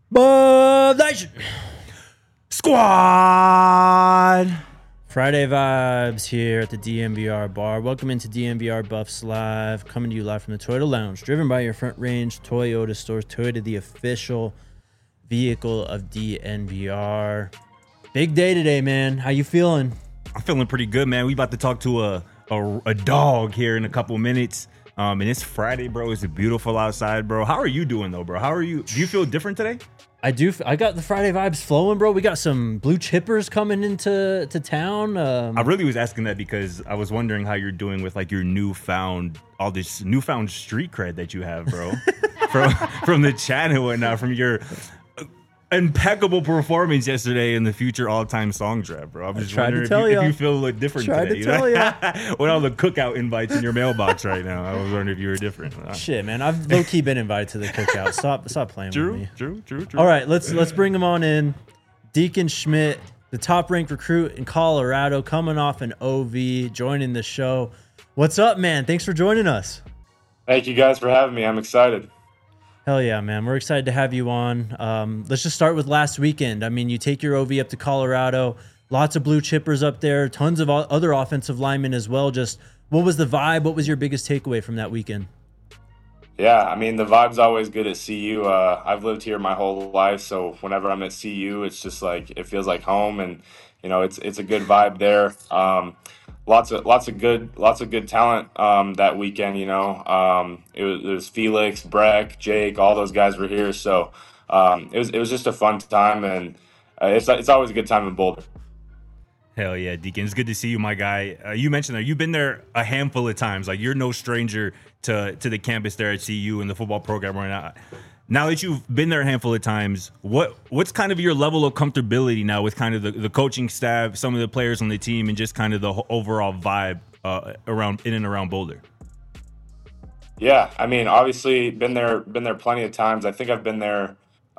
Bud Nation Squad. Friday vibes here at the DMVR bar. Welcome into DMVR Buffs Live, coming to you live from the Toyota Lounge, driven by your Front Range Toyota stores. Toyota, the official vehicle of DNVR. Big day today, man. How you feeling? I'm feeling pretty good, man. We about to talk to a dog here in a couple minutes. And it's Friday, bro. It's beautiful outside, bro. How are you doing, though, bro? How are you? Do you feel different today? I do. I got the Friday vibes flowing, bro. We got some blue chippers coming into town. I really was asking that because I was wondering how you're doing with like your all this newfound street cred that you have, bro. from the chat and whatnot, from your impeccable performance yesterday in the future all-time song draft, bro. I'm just wondering if you feel a little different today. With all the cookout invites in your mailbox right now, I was wondering if you were different. Shit, man, I've low-key been invited to the cookout. Stop playing with me. True. All right, let's bring him on in. Deacon Schmidt, the top-ranked recruit in Colorado, coming off an OV, joining the show. What's up, man? Thanks for joining us. Thank you guys for having me. I'm excited. Hell yeah, man. We're excited to have you on. Let's just start with last weekend. I mean, you take your OV up to Colorado, lots of blue chippers up there, tons of other offensive linemen as well. Just what was the vibe? What was your biggest takeaway from that weekend? Yeah, I mean, the vibe's always good at CU. I've lived here my whole life, so whenever I'm at CU, it's just like it feels like home, and it's a good vibe there. Lots of good talent that weekend. It was Felix, Breck, Jake, all those guys were here, so it was just a fun time, and it's always a good time in Boulder. Hell yeah, Deacon. It's good to see you, my guy. You mentioned that you've been there a handful of times. Like, you're no stranger to the campus there at CU and the football program right now. Now that you've been there a handful of times, what's kind of your level of comfortability now with kind of the coaching staff, some of the players on the team, and just kind of the overall vibe in and around Boulder? Yeah, I mean, obviously been there plenty of times. I think I've been there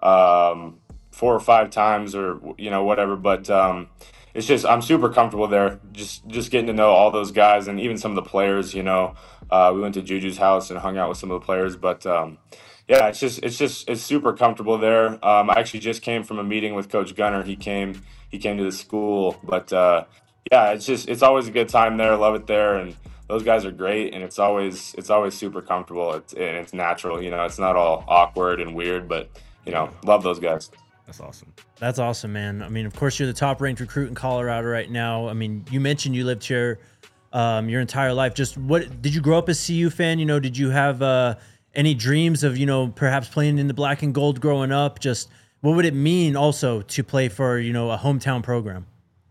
4 or 5 times, or whatever. But it's just I'm super comfortable there. Just getting to know all those guys and even some of the players. We went to Juju's house and hung out with some of the players. But yeah, it's super comfortable there. I actually just came from a meeting with Coach Gunner. He came to the school. But yeah, it's always a good time there. I love it there, and those guys are great, and it's always super comfortable. It's natural. It's not all awkward and weird, but love those guys. That's awesome. That's awesome, man. I mean, of course, you're the top-ranked recruit in Colorado right now. I mean, you mentioned you lived here your entire life. Just what did you grow up as CU fan? Did you have any dreams of perhaps playing in the black and gold growing up? Just what would it mean also to play for a hometown program?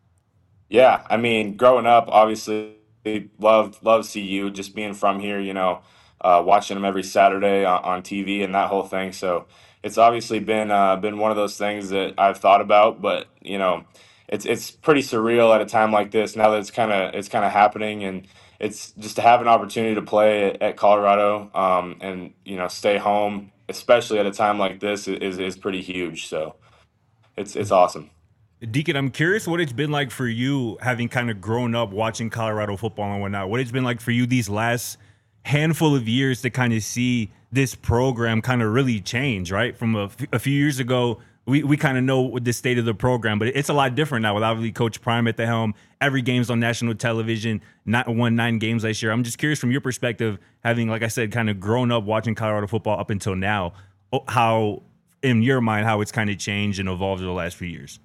Yeah, I mean, growing up, obviously, loved CU. Just being from here, watching them every Saturday on TV and that whole thing. So it's obviously been one of those things that I've thought about, but it's pretty surreal at a time like this. Now that it's kind of happening, and it's just to have an opportunity to play at Colorado, and stay home, especially at a time like this, is pretty huge. So it's awesome. Deacon, I'm curious what it's been like for you, having kind of grown up watching Colorado football and whatnot. What it's been like for you these last handful of years to kind of see this program kind of really change, right? From a few years ago, we kind of know the state of the program, but it's a lot different now with obviously Coach Prime at the helm. Every game's on national television, won 9 games last year. I'm just curious from your perspective, having, like I said, kind of grown up watching Colorado football up until now, how, in your mind, how it's kind of changed and evolved over the last few years.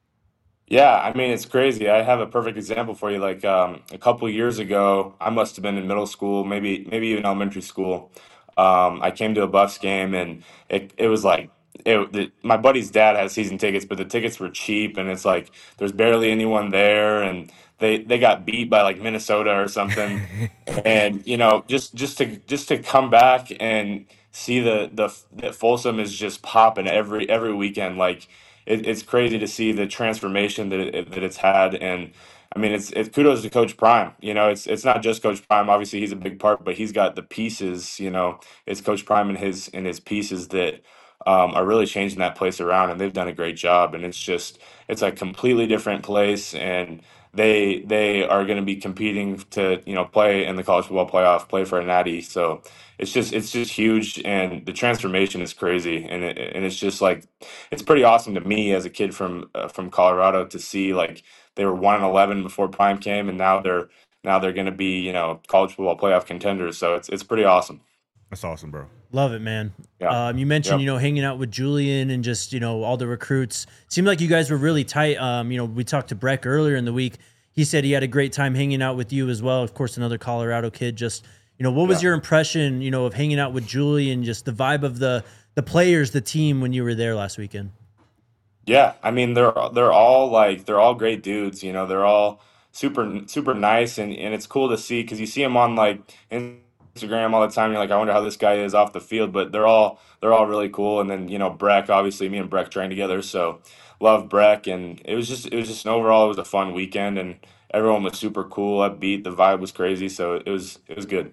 Yeah, I mean, it's crazy. I have a perfect example for you. Like a couple of years ago, I must have been in middle school, maybe even elementary school. I came to a Buffs game, and it was like my buddy's dad had season tickets, but the tickets were cheap, and it's like there's barely anyone there, and they got beat by like Minnesota or something. And just to come back and see that Folsom is just popping every weekend. Like it's crazy to see the transformation that it's had. And I mean, it's kudos to Coach Prime. It's not just Coach Prime. Obviously, he's a big part, but he's got the pieces. It's Coach Prime and his pieces that are really changing that place around, and they've done a great job. And it's a completely different place, and they are going to be competing to play in the college football playoff, play for a natty. So it's just huge, and the transformation is crazy, and it's just like it's pretty awesome to me as a kid from Colorado to see like they were 1-11 before Prime came, and now they're going to be college football playoff contenders. So it's pretty awesome. That's awesome, bro. Love it, man. Yeah. You mentioned, Yep. hanging out with Julian and just, all the recruits. Seemed like you guys were really tight. We talked to Breck earlier in the week. He said he had a great time hanging out with you as well. Of course, another Colorado kid. Just, what was Yeah. your impression, of hanging out with Julian, just the vibe of the players, the team when you were there last weekend? Yeah, I mean they're all great dudes. They're all super super nice, and it's cool to see because you see them on like Instagram all the time. You're like, I wonder how this guy is off the field, but they're all really cool. And then Breck, obviously me and Breck trained together, so love Breck. And it was just overall it was a fun weekend, and everyone was super cool, upbeat. The vibe was crazy, so it was good.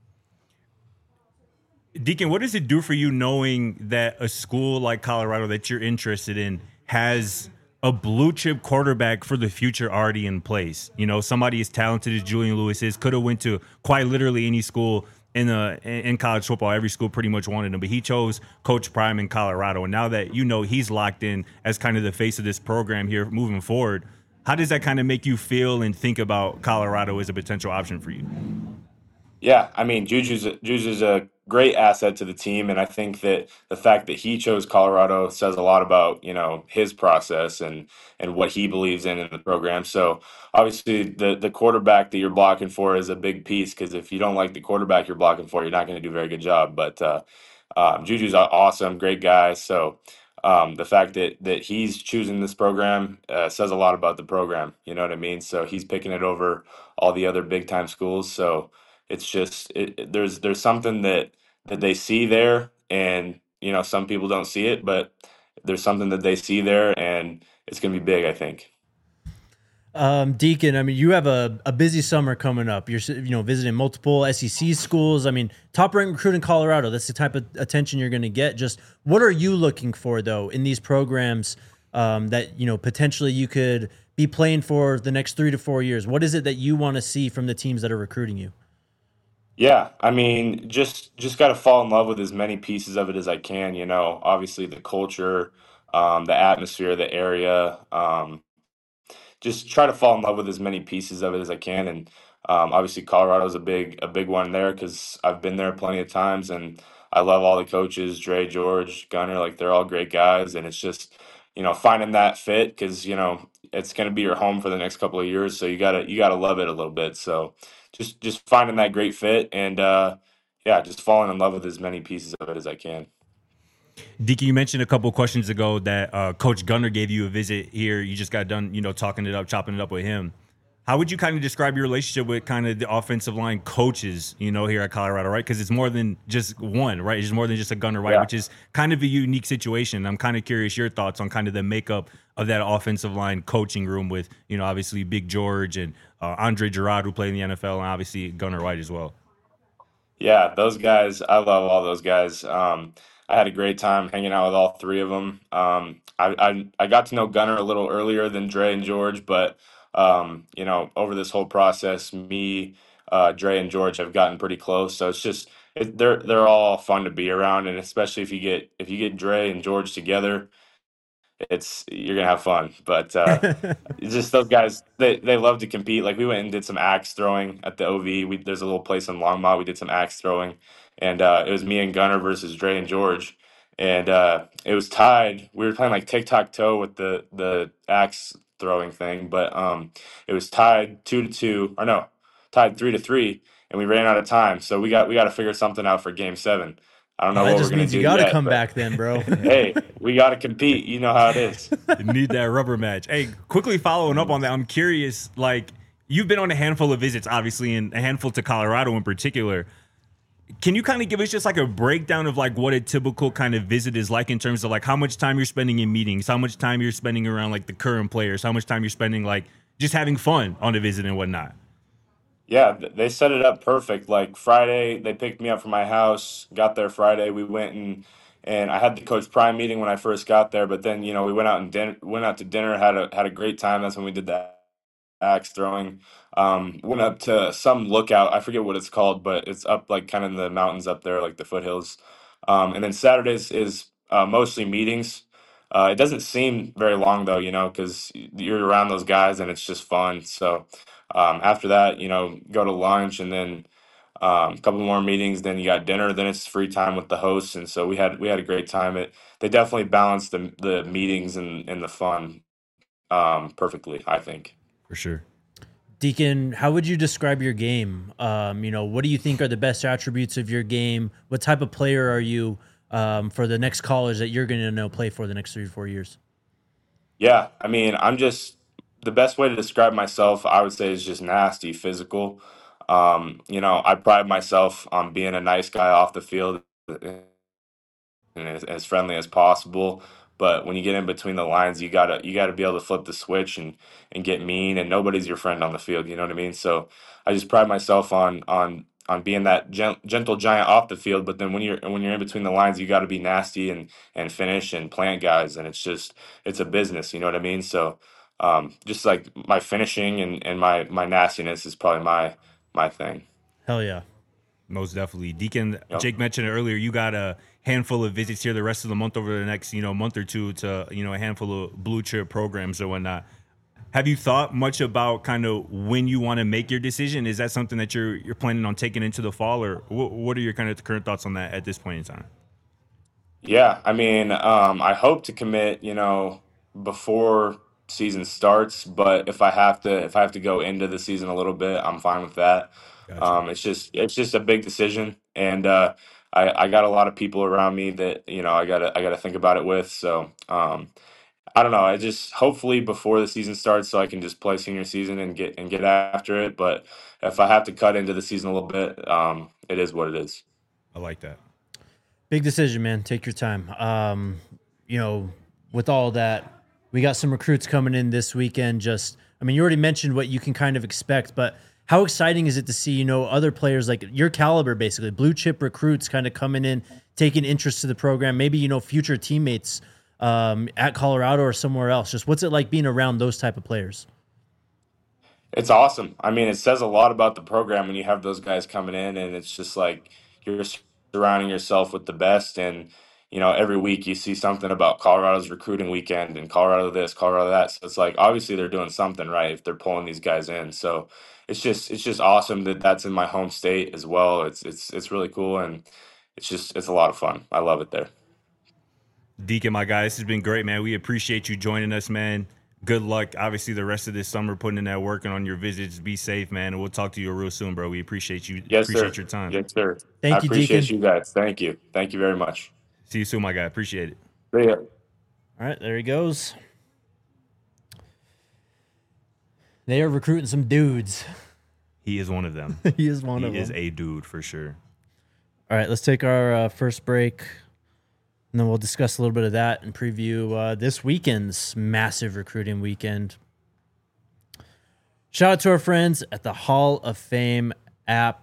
Deacon, what does it do for you knowing that a school like Colorado that you're interested in has a blue chip quarterback for the future already in place? Somebody as talented as Julian Lewis is, could have went to quite literally any school in college football. Every school pretty much wanted him, but he chose Coach Prime in Colorado. And now that he's locked in as kind of the face of this program here moving forward, how does that kind of make you feel and think about Colorado as a potential option for you? Yeah, I mean, Juju's a great asset to the team, and I think that the fact that he chose Colorado says a lot about his process and what he believes in the program. So obviously, the quarterback that you're blocking for is a big piece because if you don't like the quarterback you're blocking for, you're not going to do a very good job. But Juju's awesome, great guy. So the fact that he's choosing this program says a lot about the program. You know what I mean? So he's picking it over all the other big time schools. So it's just there's something that they see there, and some people don't see it, but there's something that they see there, and it's going to be big, I think. Deacon, I mean, you have a busy summer coming up. You're, visiting multiple SEC schools. I mean, top ranked recruit in Colorado. That's the type of attention you're going to get. Just what are you looking for though in these programs that potentially you could be playing for the next 3 to 4 years? What is it that you want to see from the teams that are recruiting you? Yeah, I mean, just got to fall in love with as many pieces of it as I can. Obviously the culture, the atmosphere, the area. Just try to fall in love with as many pieces of it as I can. And obviously, Colorado's a big one there because I've been there plenty of times, and I love all the coaches, Dre, George, Gunner, like they're all great guys, and it's just finding that fit because it's going to be your home for the next couple of years, so you gotta love it a little bit. So just finding that great fit, and yeah, just falling in love with as many pieces of it as I can. Deacon, you mentioned a couple of questions ago that Coach Gunner gave you a visit here. You just got done, talking it up, chopping it up with him. How would you kind of describe your relationship with kind of the offensive line coaches, here at Colorado, right? Because it's more than just one, right? It's more than just a Gunner, right? Yeah. Which is kind of a unique situation. I'm kind of curious your thoughts on kind of the makeup of that offensive line coaching room with, obviously Big George and Andre Gerard, who played in the NFL, and obviously Gunner White as well. Yeah, those guys, I love all those guys. I had a great time hanging out with all three of them. I got to know Gunner a little earlier than Dre and George, but over this whole process, me, Dre, and George have gotten pretty close. So they're all fun to be around, and especially if you get Dre and George together, you're gonna have fun. But it's just those guys, they love to compete. Like we went and did some axe throwing at the OV. There's a little place in Longmont. We did some axe throwing, and it was me and Gunner versus Dre and George, and it was tied. We were playing like tic tac toe with the axe throwing thing, but it was tied 2-2, or no, tied 3-3, and we ran out of time. So we got to figure something out for Game 7. I don't know That what we're just gonna means do you got to yet, come but back then, bro. hey, we got to compete. You know how it is. You need that rubber match. Hey, quickly following up on that, I'm curious, like, you've been on a handful of visits, obviously, and a handful to Colorado in particular. Can you kind of give us just like a breakdown of like what a typical kind of visit is like in terms of like how much time you're spending in meetings, how much time you're spending around like the current players, how much time you're spending like just having fun on the visit and whatnot? Yeah, they set it up perfect. Like Friday, they picked me up from my house. Got there Friday. We went and I had the Coach Prime meeting when I first got there. But then, we went out to dinner, had a great time. That's when we did that axe throwing. Went up to some lookout. I forget what it's called, but it's up like kind of in the mountains up there, like the foothills. And then Saturdays is mostly meetings. It doesn't seem very long though, because you're around those guys and it's just fun. So after that, go to lunch and then a couple more meetings. Then you got dinner. Then it's free time with the hosts, and so we had a great time. They definitely balanced the meetings and the fun perfectly, I think. For sure. Deacon, how would you describe your game? What do you think are the best attributes of your game? What type of player are you for the next college that you're going to play for the next 3 to 4 years? Yeah, I mean, I'm just the best way to describe myself, I would say, is just nasty, physical. I pride myself on being a nice guy off the field and as friendly as possible. But when you get in between the lines, you gotta be able to flip the switch and get mean. And nobody's your friend on the field. You know what I mean? So I just pride myself on being that gentle giant off the field. But then when you're in between the lines, you got to be nasty and finish and plant guys. And it's a business. You know what I mean? So just like my finishing and my nastiness is probably my thing. Hell yeah. Most definitely. Deacon, Yep. Jake mentioned it earlier, you got a handful of visits here the rest of the month over the next, month or two to, a handful of blue chip programs or whatnot. Have you thought much about kind of when you want to make your decision? Is that something that you're planning on taking into the fall, or what are your kind of current thoughts on that at this point in time? Yeah, I mean, I hope to commit, before season starts, but if I have to go into the season a little bit, I'm fine with that. Gotcha. It's just a big decision, and I got a lot of people around me that I gotta think about it with. So I don't know. I just hopefully before the season starts, so I can just play senior season and get after it. But if I have to cut into the season a little bit, it is what it is. I like that. Big decision, man. Take your time. With all that, we got some recruits coming in this weekend. You already mentioned what you can kind of expect, but how exciting is it to see, other players like your caliber, basically blue chip recruits kind of coming in, taking interest to the program, maybe, future teammates at Colorado or somewhere else. Just what's it like being around those type of players? It's awesome. I mean, it says a lot about the program when you have those guys coming in, and it's just like you're surrounding yourself with the best. And every week you see something about Colorado's recruiting weekend and Colorado this, Colorado that. So it's like obviously they're doing something right if they're pulling these guys in. So it's just awesome that that's in my home state as well. It's really cool, and it's a lot of fun. I love it there. Deacon, my guy, this has been great, man. We appreciate you joining us, man. Good luck, obviously, the rest of this summer putting in that work and on your visits. Be safe, man, and we'll talk to you real soon, bro. We appreciate you. Yes, sir. Appreciate your time. Yes, sir. Thank I you, appreciate Deacon. you guys. Thank you. Thank you very much. See you soon, my guy. Appreciate it. See ya. All right, there he goes. They are recruiting some dudes. He is one of them. He is one of them. He is a dude for sure. All right, let's take our first break, and then we'll discuss a little bit of that and preview this weekend's massive recruiting weekend. Shout out to our friends at the Hall of Fame app.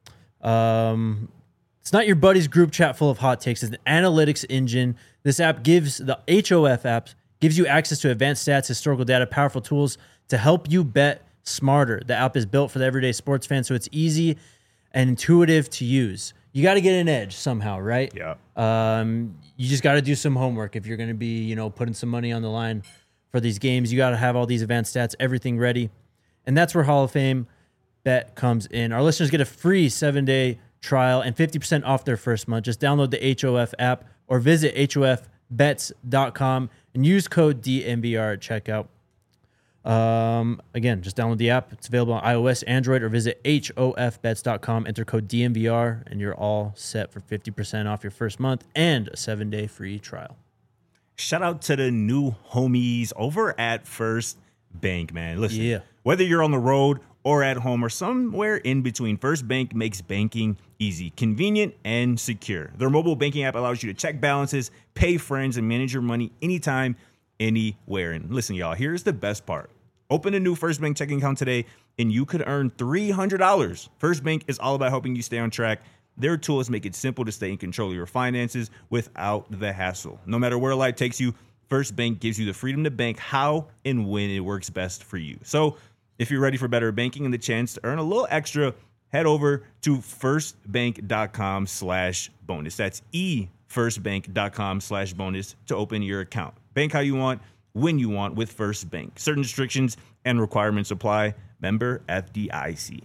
It's not your buddy's group chat full of hot takes. It's an analytics engine. This app the HOF app gives you access to advanced stats, historical data, powerful tools to help you bet smarter. The app is built for the everyday sports fan, so it's easy and intuitive to use. You got to get an edge somehow, right? Yeah. You just got to do some homework if you're going to be, putting some money on the line for these games. You got to have all these advanced stats, everything ready. And that's where Hall of Fame Bet comes in. Our listeners get a free 7-day trial and 50% off their first month. Just download the HOF app or visit hofbets.com and use code DNVR at checkout. Again, just download the app. It's available on iOS, Android, or visit hofbets.com. Enter code DNVR, and you're all set for 50% off your first month and a 7-day free trial. Shout out to the new homies over at First Bank, man. Listen, Yeah. Whether you're on the road or at home or somewhere in between, First Bank makes banking easy, convenient, and secure. Their mobile banking app allows you to check balances, pay friends, and manage your money anytime, anywhere. And listen, y'all, here's the best part. Open a new First Bank checking account today, and you could earn $300. First Bank is all about helping you stay on track, Their tools make it simple to stay in control of your finances without the hassle. No matter where life takes you, First Bank gives you the freedom to bank how and when it works best for you. So if you're ready for better banking and the chance to earn a little extra, head over to firstbank.com/bonus. That's firstbank.com/bonus to open your account. Bank how you want, when you want with First Bank. Certain restrictions and requirements apply. Member FDIC.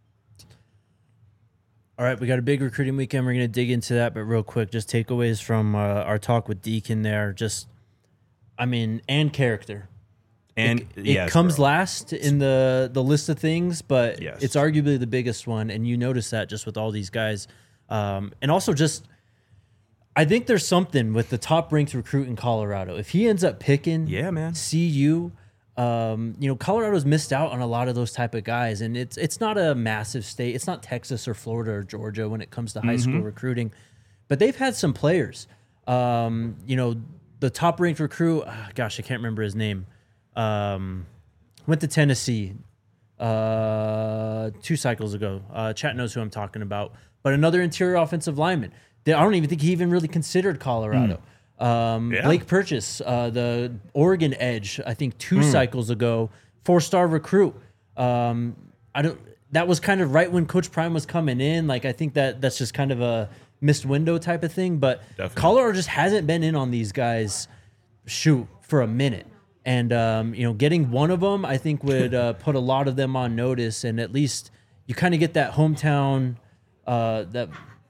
All right, we got a big recruiting weekend. We're going to dig into that, but real quick, just takeaways from our talk with Deacon there. And character. And it comes last in the list of things, but Yes. it's arguably the biggest one, and you notice that just with all these guys. And also just, I think there's something with the top-ranked recruit in Colorado. If he ends up picking CU, Colorado's missed out on a lot of those type of guys, and it's not a massive state. It's not Texas or Florida or Georgia when it comes to high school recruiting, but they've had some players. The top-ranked recruit, I can't remember his name. Went to Tennessee 2 cycles ago. Chat knows who I'm talking about. But another interior offensive lineman. I don't even think he even really considered Colorado. Blake Purchase, the Oregon edge, I think 2 cycles ago, 4-star recruit. That was kind of right when Coach Prime was coming in. Like, I think that's just kind of a missed window type of thing. But Definitely. Colorado just hasn't been in on these guys, for a minute. And, getting one of them, I think, would put a lot of them on notice. And at least you kind of get that hometown, the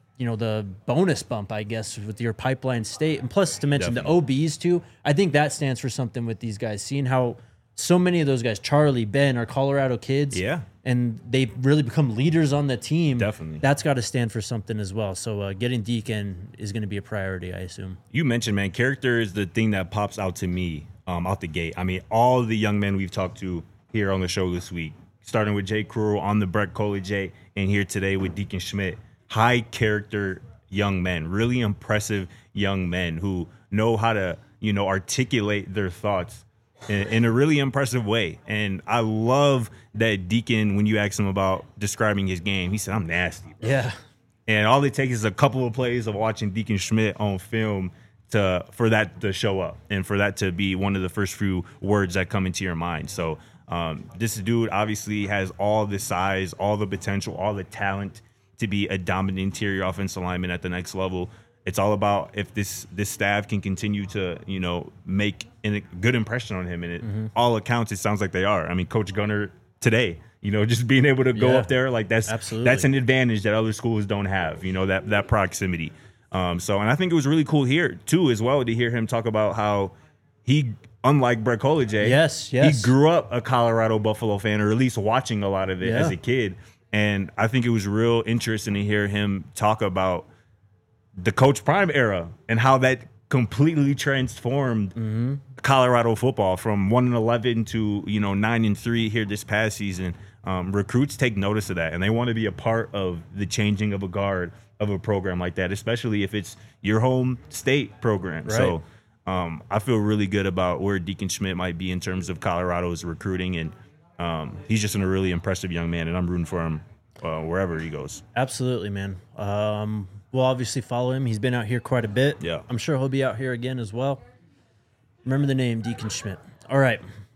bonus bump, I guess, with your pipeline state. And plus, to mention the OBs, too, I think that stands for something with these guys. Seeing how so many of those guys, Charlie, Ben, are Colorado kids. Yeah. And they've really become leaders on the team. Definitely. That's got to stand for something as well. So getting Deacon is going to be a priority, I assume. You mentioned, man, character is the thing that pops out to me out the gate. I mean, all the young men we've talked to here on the show this week, starting with Jay Krull on the Brett College, and here today with Deacon Schmidt, high character young men, really impressive young men who know how to, articulate their thoughts in a really impressive way. And I love that Deacon, when you ask him about describing his game, he said, "I'm nasty, bro." Yeah. And all it takes is a couple of plays of watching Deacon Schmidt on film for that to show up and for that to be one of the first few words that come into your mind. So this dude obviously has all the size, all the potential, all the talent to be a dominant interior offensive lineman at the next level. It's all about if this staff can continue to, make a good impression on him. And all accounts, it sounds like they are. I mean, Coach Gunner today, just being able to go up there, like that's an advantage that other schools don't have, that proximity. And I think it was really cool here too, as well, to hear him talk about how he, unlike Brett College, he grew up a Colorado Buffalo fan, or at least watching a lot of it as a kid. And I think it was real interesting to hear him talk about the Coach Prime era and how that completely transformed Colorado football from 1-11 to 9-3 here this past season. Recruits take notice of that, and they want to be a part of the changing of a guard of a program like that, especially if it's your home state program. Right. So I feel really good about where Deacon Schmidt might be in terms of Colorado's recruiting, and he's just a really impressive young man, and I'm rooting for him wherever he goes. Absolutely, man. We'll obviously follow him. He's been out here quite a bit. Yeah. I'm sure he'll be out here again as well. Remember the name, Deacon Schmidt. All right.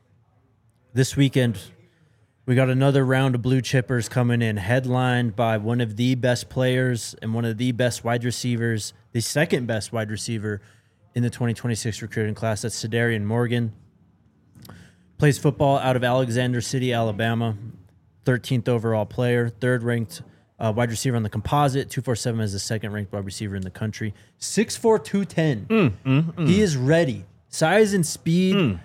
This weekend, we got another round of blue chippers coming in, headlined by one of the best players and one of the best wide receivers, the second best wide receiver in the 2026 recruiting class. That's Sedarian Morgan. Plays football out of Alexander City, Alabama. 13th overall player, third-ranked wide receiver on the composite. 247 as the second-ranked wide receiver in the country. 6'4", 210. He is ready. Size and speed.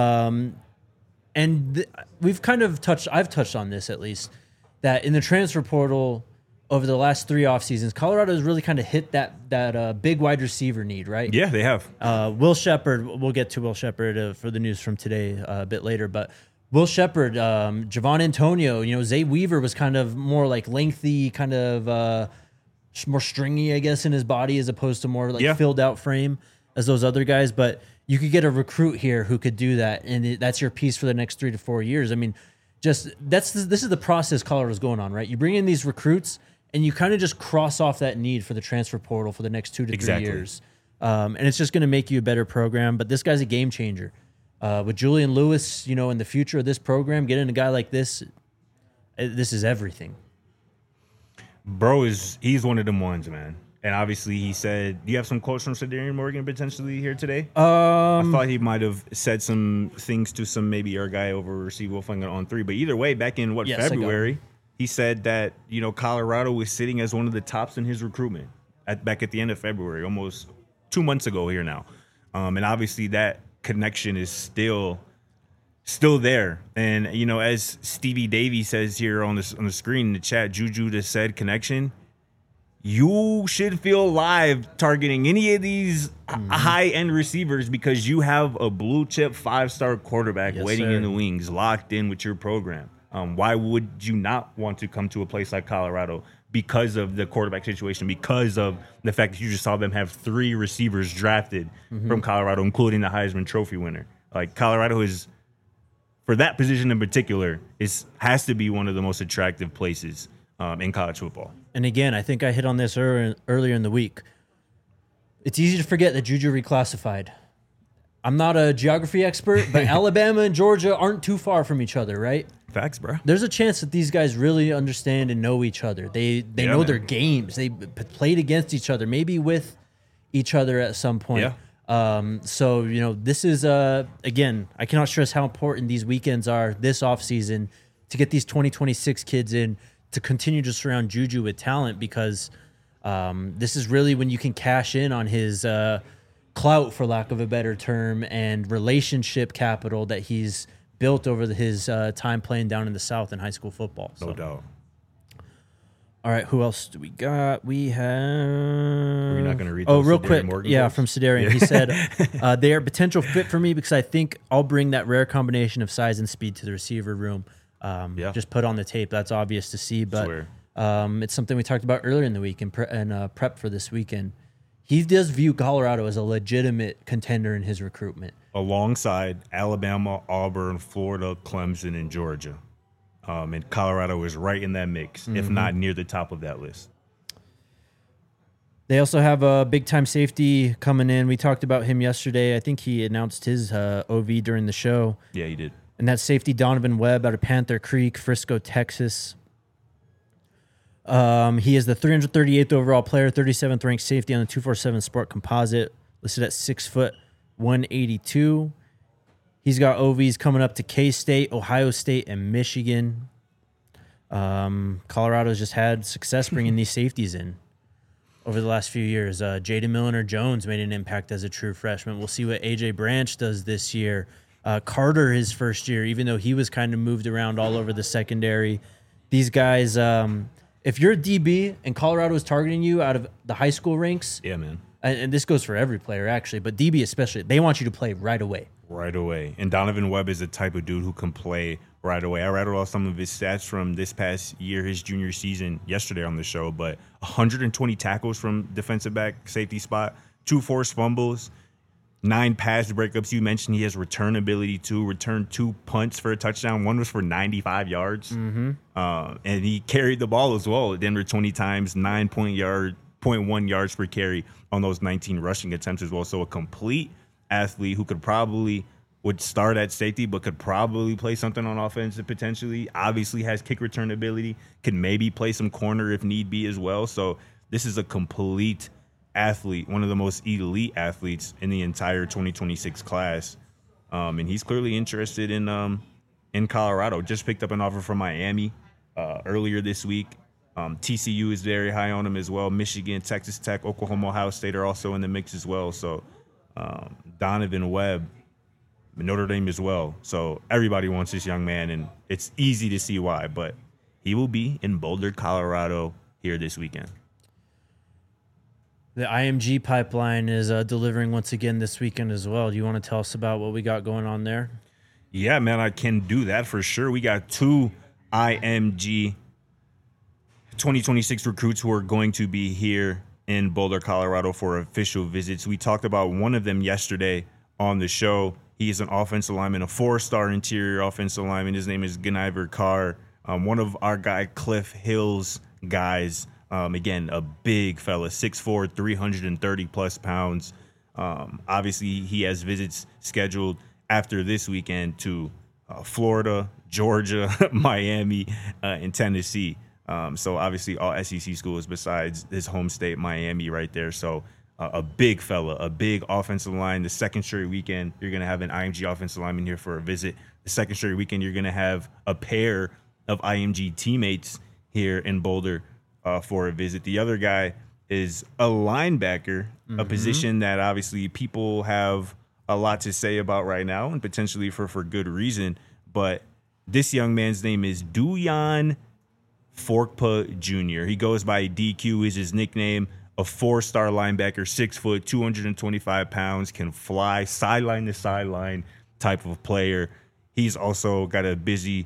We've kind of I've touched on this at least, that in the transfer portal over the last 3 off seasons, Colorado has really kind of hit that big wide receiver need, right? Yeah, they have. Will Shepard, we'll get to Will Shepard for the news from today a bit later, but Will Shepard, Javon Antonio, Zay Weaver was kind of more like lengthy, kind of more stringy, I guess, in his body as opposed to more like filled out frame as those other guys. But you could get a recruit here who could do that, and that's your piece for the next 3 to 4 years. I mean, this is the process Colorado's going on, right? You bring in these recruits, and you kind of just cross off that need for the transfer portal for the next 2 to 3 Exactly. years. And it's just going to make you a better program. But this guy's a game changer. With Julian Lewis, in the future of this program, getting a guy like this is everything. Bro, he's one of them ones, man. And obviously, he said, do you have some quotes from Sadarian Morgan potentially here today? I thought he might have said some things to some maybe our guy over Steve Wilfang on 3. But either way, back in Yes, I got February, he said that Colorado was sitting as one of the tops in his recruitment back at the end of February, almost 2 months ago here now. And obviously, that connection is still there. And as Stevie Davy says here on the screen in the chat, Juju just said connection. You should feel live targeting any of these high-end receivers because you have a blue-chip 5-star quarterback waiting in the wings, locked in with your program. Why would you not want to come to a place like Colorado because of the quarterback situation, because of the fact that you just saw them have 3 receivers drafted from Colorado, including the Heisman Trophy winner? Like, Colorado is, for that position in particular, has to be one of the most attractive places in college football. And again, I think I hit on this earlier in the week. It's easy to forget that Juju reclassified. I'm not a geography expert, but Alabama and Georgia aren't too far from each other, right? Facts, bro. There's a chance that these guys really understand and know each other. They know their games. They played against each other, maybe with each other at some point. Yeah. So, this is, again, I cannot stress how important these weekends are this offseason to get these 2026 kids in, to continue to surround Juju with talent, because this is really when you can cash in on his clout, for lack of a better term, and relationship capital that he's built over his time playing down in the South in high school football. No doubt. All right, who else do we got? We have... We're not going to read Oh, those real Sadarian quick. Morgan Yeah, quotes? from Sadarian. He said, they are a potential fit for me because I think I'll bring that rare combination of size and speed to the receiver room. Just put on the tape. That's obvious to see, but it's something we talked about earlier in the week and prep for this weekend. He does view Colorado as a legitimate contender in his recruitment. Alongside Alabama, Auburn, Florida, Clemson, and Georgia. And Colorado is right in that mix, if not near the top of that list. They also have a big-time safety coming in. We talked about him yesterday. I think he announced his OV during the show. Yeah, he did. And that's safety Donovan Webb out of Panther Creek, Frisco, Texas. He is the 338th overall player, 37th ranked safety on the 247 Sport Composite, listed at 6 foot 182. He's got OVs coming up to K-State, Ohio State, and Michigan. Colorado's just had success bringing these safeties in over the last few years. Jaden Milner-Jones made an impact as a true freshman. We'll see what A.J. Branch does this year. Carter, his first year, even though he was kind of moved around all over the secondary. These guys, if you're a DB and Colorado is targeting you out of the high school ranks, Yeah, man. and this goes for every player actually, but DB especially, they want you to play right away. Right away. And Donovan Webb is the type of dude who can play right away. I rattled off some of his stats from this past year, his junior season, yesterday on the show, but 120 tackles from defensive back, safety spot, 2 forced fumbles, 9 pass breakups. You mentioned he has return ability too, returned 2 punts for a touchdown. One was for 95 yards. And he carried the ball as well at Denver 20 times, 9.1 yards per carry on those 19 rushing attempts as well. So a complete athlete who would start at safety, but could probably play something on offense potentially. Obviously has kick return ability, can maybe play some corner if need be as well. So this is a complete athlete, one of the most elite athletes in the entire 2026 class. And he's clearly interested in Colorado. Just picked up an offer from Miami earlier this week. TCU is very high on him as well. Michigan, Texas Tech, Oklahoma, Ohio State are also in the mix as well. So Donovan Webb, Notre Dame as well. So everybody wants this young man, and it's easy to see why. But he will be in Boulder, Colorado here this weekend. The IMG pipeline is delivering once again this weekend as well. Do you want to tell us about what we got going on there? Yeah, man, I can do that for sure. We got 2 IMG 2026 recruits who are going to be here in Boulder, Colorado for official visits. We talked about one of them yesterday on the show. He is an offensive lineman, a 4-star interior offensive lineman. His name is Ganiver Carr. One of our guy Cliff Hill's guys Again, a big fella, 6'4", 330 plus pounds. Obviously, he has visits scheduled after this weekend to Florida, Georgia, Miami, and Tennessee. So obviously all SEC schools besides his home state, Miami, right there. So a big fella, a big offensive line. The second straight weekend, you're going to have an IMG offensive lineman here for a visit. The second straight weekend, you're going to have a pair of IMG teammates here in Boulder for a visit. The other guy is a linebacker, a position that obviously people have a lot to say about right now and potentially for good reason. But this young man's name is Duyan Forkpa Jr. He goes by DQ is his nickname. A 4-star linebacker, 6 foot, 225 pounds, can fly, sideline to sideline type of player. He's also got a busy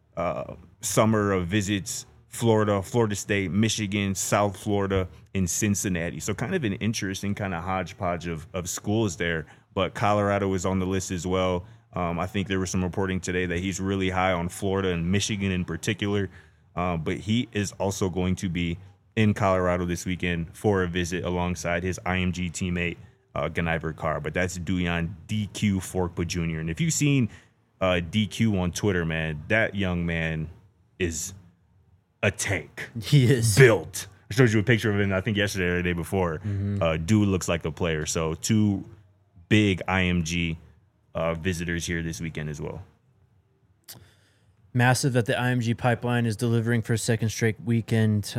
summer of visits: Florida, Florida State, Michigan, South Florida, and Cincinnati. So kind of an interesting kind of hodgepodge of schools there. But Colorado is on the list as well. I think there was some reporting today that he's really high on Florida and Michigan in particular. But he is also going to be in Colorado this weekend for a visit alongside his IMG teammate, Ganiver Carr. But that's Duyan DQ Forkpa Jr. And if you've seen DQ on Twitter, man, that young man is a tank. He is built. I showed you a picture of him, I think yesterday or the day before. Dude looks like a player. So 2 big IMG visitors here this weekend as well. Massive that the IMG pipeline is delivering for a second straight weekend.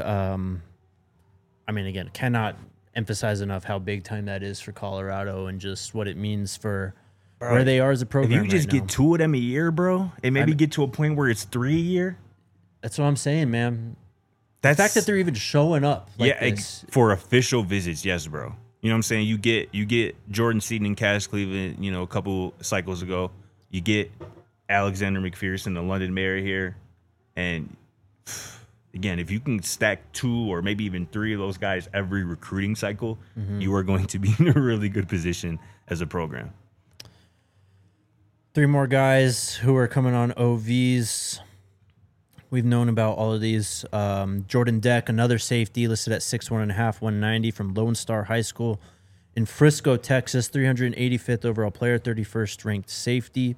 I mean, again, cannot emphasize enough how big time that is for Colorado and just what it means for where they are as a program. If you just get 2 of them a year, bro, and maybe get to a point where it's 3 a year. That's what I'm saying, man. The fact that they're even showing up like this. For official visits, yes, bro. You know what I'm saying? You get Jordan Seaton and Cash Cleveland, a couple cycles ago. You get Alexander McPherson, the London Mayor here. And again, if you can stack 2 or maybe even 3 of those guys every recruiting cycle, you are going to be in a really good position as a program. 3 more guys who are coming on OVs. We've known about all of these. Jordan Deck, another safety, listed at 6'1.5", 190 from Lone Star High School in Frisco, Texas. 385th overall player, 31st ranked safety.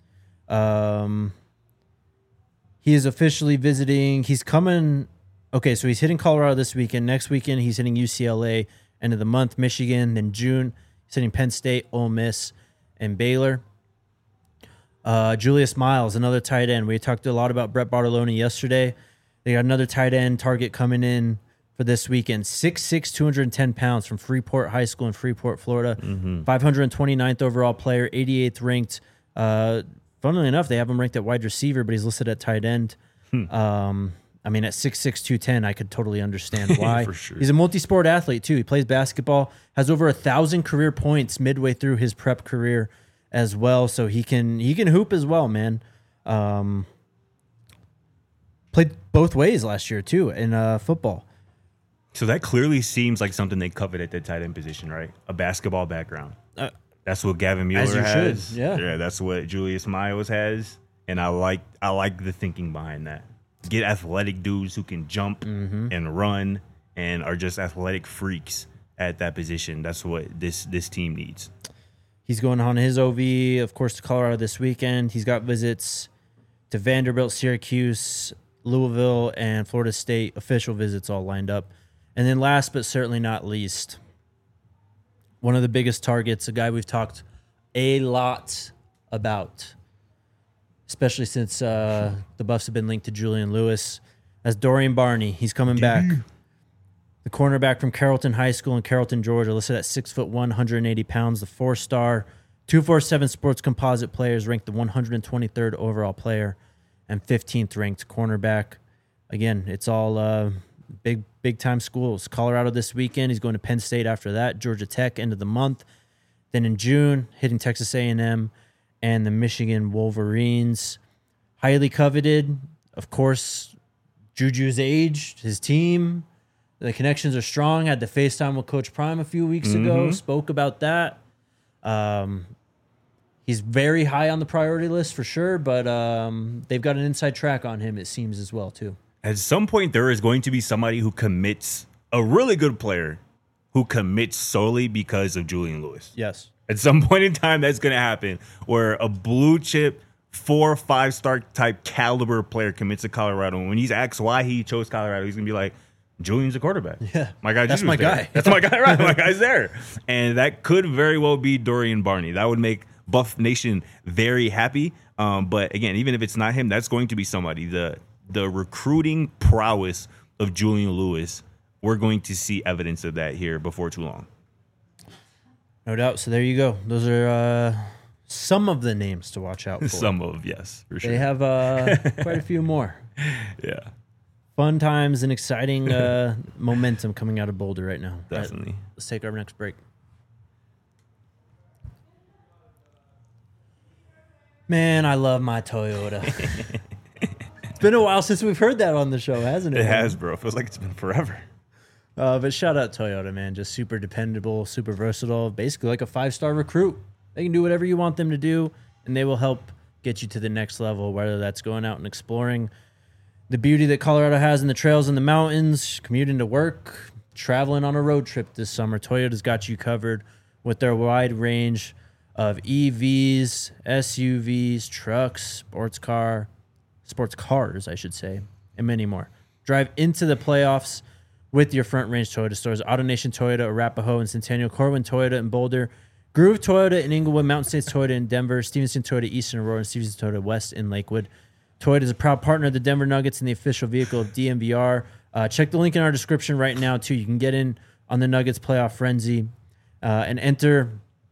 He is officially visiting. He's coming. Okay, so he's hitting Colorado this weekend. Next weekend, he's hitting UCLA. End of the month, Michigan. Then June, he's hitting Penn State, Ole Miss, and Baylor. Julius Miles, another tight end. We talked a lot about Brett Bartoloni yesterday. They got another tight end target coming in for this weekend. 6'6", 210 pounds from Freeport High School in Freeport, Florida. 529th overall player, 88th ranked. Funnily enough, they have him ranked at wide receiver, but he's listed at tight end. I mean, at 6'6", 210, I could totally understand why. For sure. He's a multi-sport athlete, too. He plays basketball, has over 1,000 career points midway through his prep career as well, so he can hoop as well, man. Played both ways last year, too, in football. So that clearly seems like something they covet at the tight end position, right? A basketball background. That's what Gavin Mueller has. Should. Yeah, that's what Julius Miles has, and I like the thinking behind that. Get athletic dudes who can jump and run and are just athletic freaks at that position. That's what this team needs. He's going on his OV, of course, to Colorado this weekend. He's got visits to Vanderbilt, Syracuse, Louisville, and Florida State, official visits all lined up. And then last but certainly not least, one of the biggest targets, a guy we've talked a lot about, especially since the Buffs have been linked to Julian Lewis, as Dorian Barney. He's coming back. The cornerback from Carrollton High School in Carrollton, Georgia, listed at 6'1", 180 pounds, the 4-star, 247 Sports Composite players, ranked the 123rd overall player and 15th ranked cornerback. Again, it's all big time schools. Colorado this weekend. He's going to Penn State after that. Georgia Tech end of the month. Then in June, hitting Texas A&M and the Michigan Wolverines. Highly coveted, of course. Juju's age, his team. The connections are strong. Had the FaceTime with Coach Prime a few weeks ago. Spoke about that. He's very high on the priority list for sure, but they've got an inside track on him, it seems, as well, too. At some point, there is going to be somebody who commits, a really good player who commits solely because of Julian Lewis. Yes. At some point in time, that's going to happen, where a blue chip 4 or 5-star type caliber player commits to Colorado. And when he's asked why he chose Colorado, he's going to be like, Julian's a quarterback. Yeah. My guy, That's my guy. That's my guy, right? My guy's there. And that could very well be Dorian Barney. That would make Buff Nation very happy. But again, even if it's not him, that's going to be somebody. The recruiting prowess of Julian Lewis, we're going to see evidence of that here before too long. No doubt. So there you go. Those are some of the names to watch out for. Yes, for sure. They have quite a few more. Yeah. Fun times and exciting momentum coming out of Boulder right now. Definitely. Right, let's take our next break. Man, I love my Toyota. It's been a while since we've heard that on the show, hasn't it? It has, bro. It feels like it's been forever. But shout out Toyota, man. Just super dependable, super versatile. Basically like a 5-star recruit. They can do whatever you want them to do, and they will help get you to the next level, whether that's going out and exploring the beauty that Colorado has in the trails and the mountains, commuting to work, traveling on a road trip this summer. Toyota's got you covered with their wide range of EVs, SUVs, trucks, sports cars, I should say, and many more. Drive into the playoffs with your Front Range Toyota stores. AutoNation Toyota, Arapahoe and Centennial, Corwin Toyota in Boulder, Groove Toyota in Inglewood, Mountain States Toyota in Denver, Stevenson Toyota East in Aurora, and Stevenson Toyota West in Lakewood. Toyota is a proud partner of the Denver Nuggets and the official vehicle of DMVR. Check the link in our description right now, too. You can get in on the Nuggets playoff frenzy and enter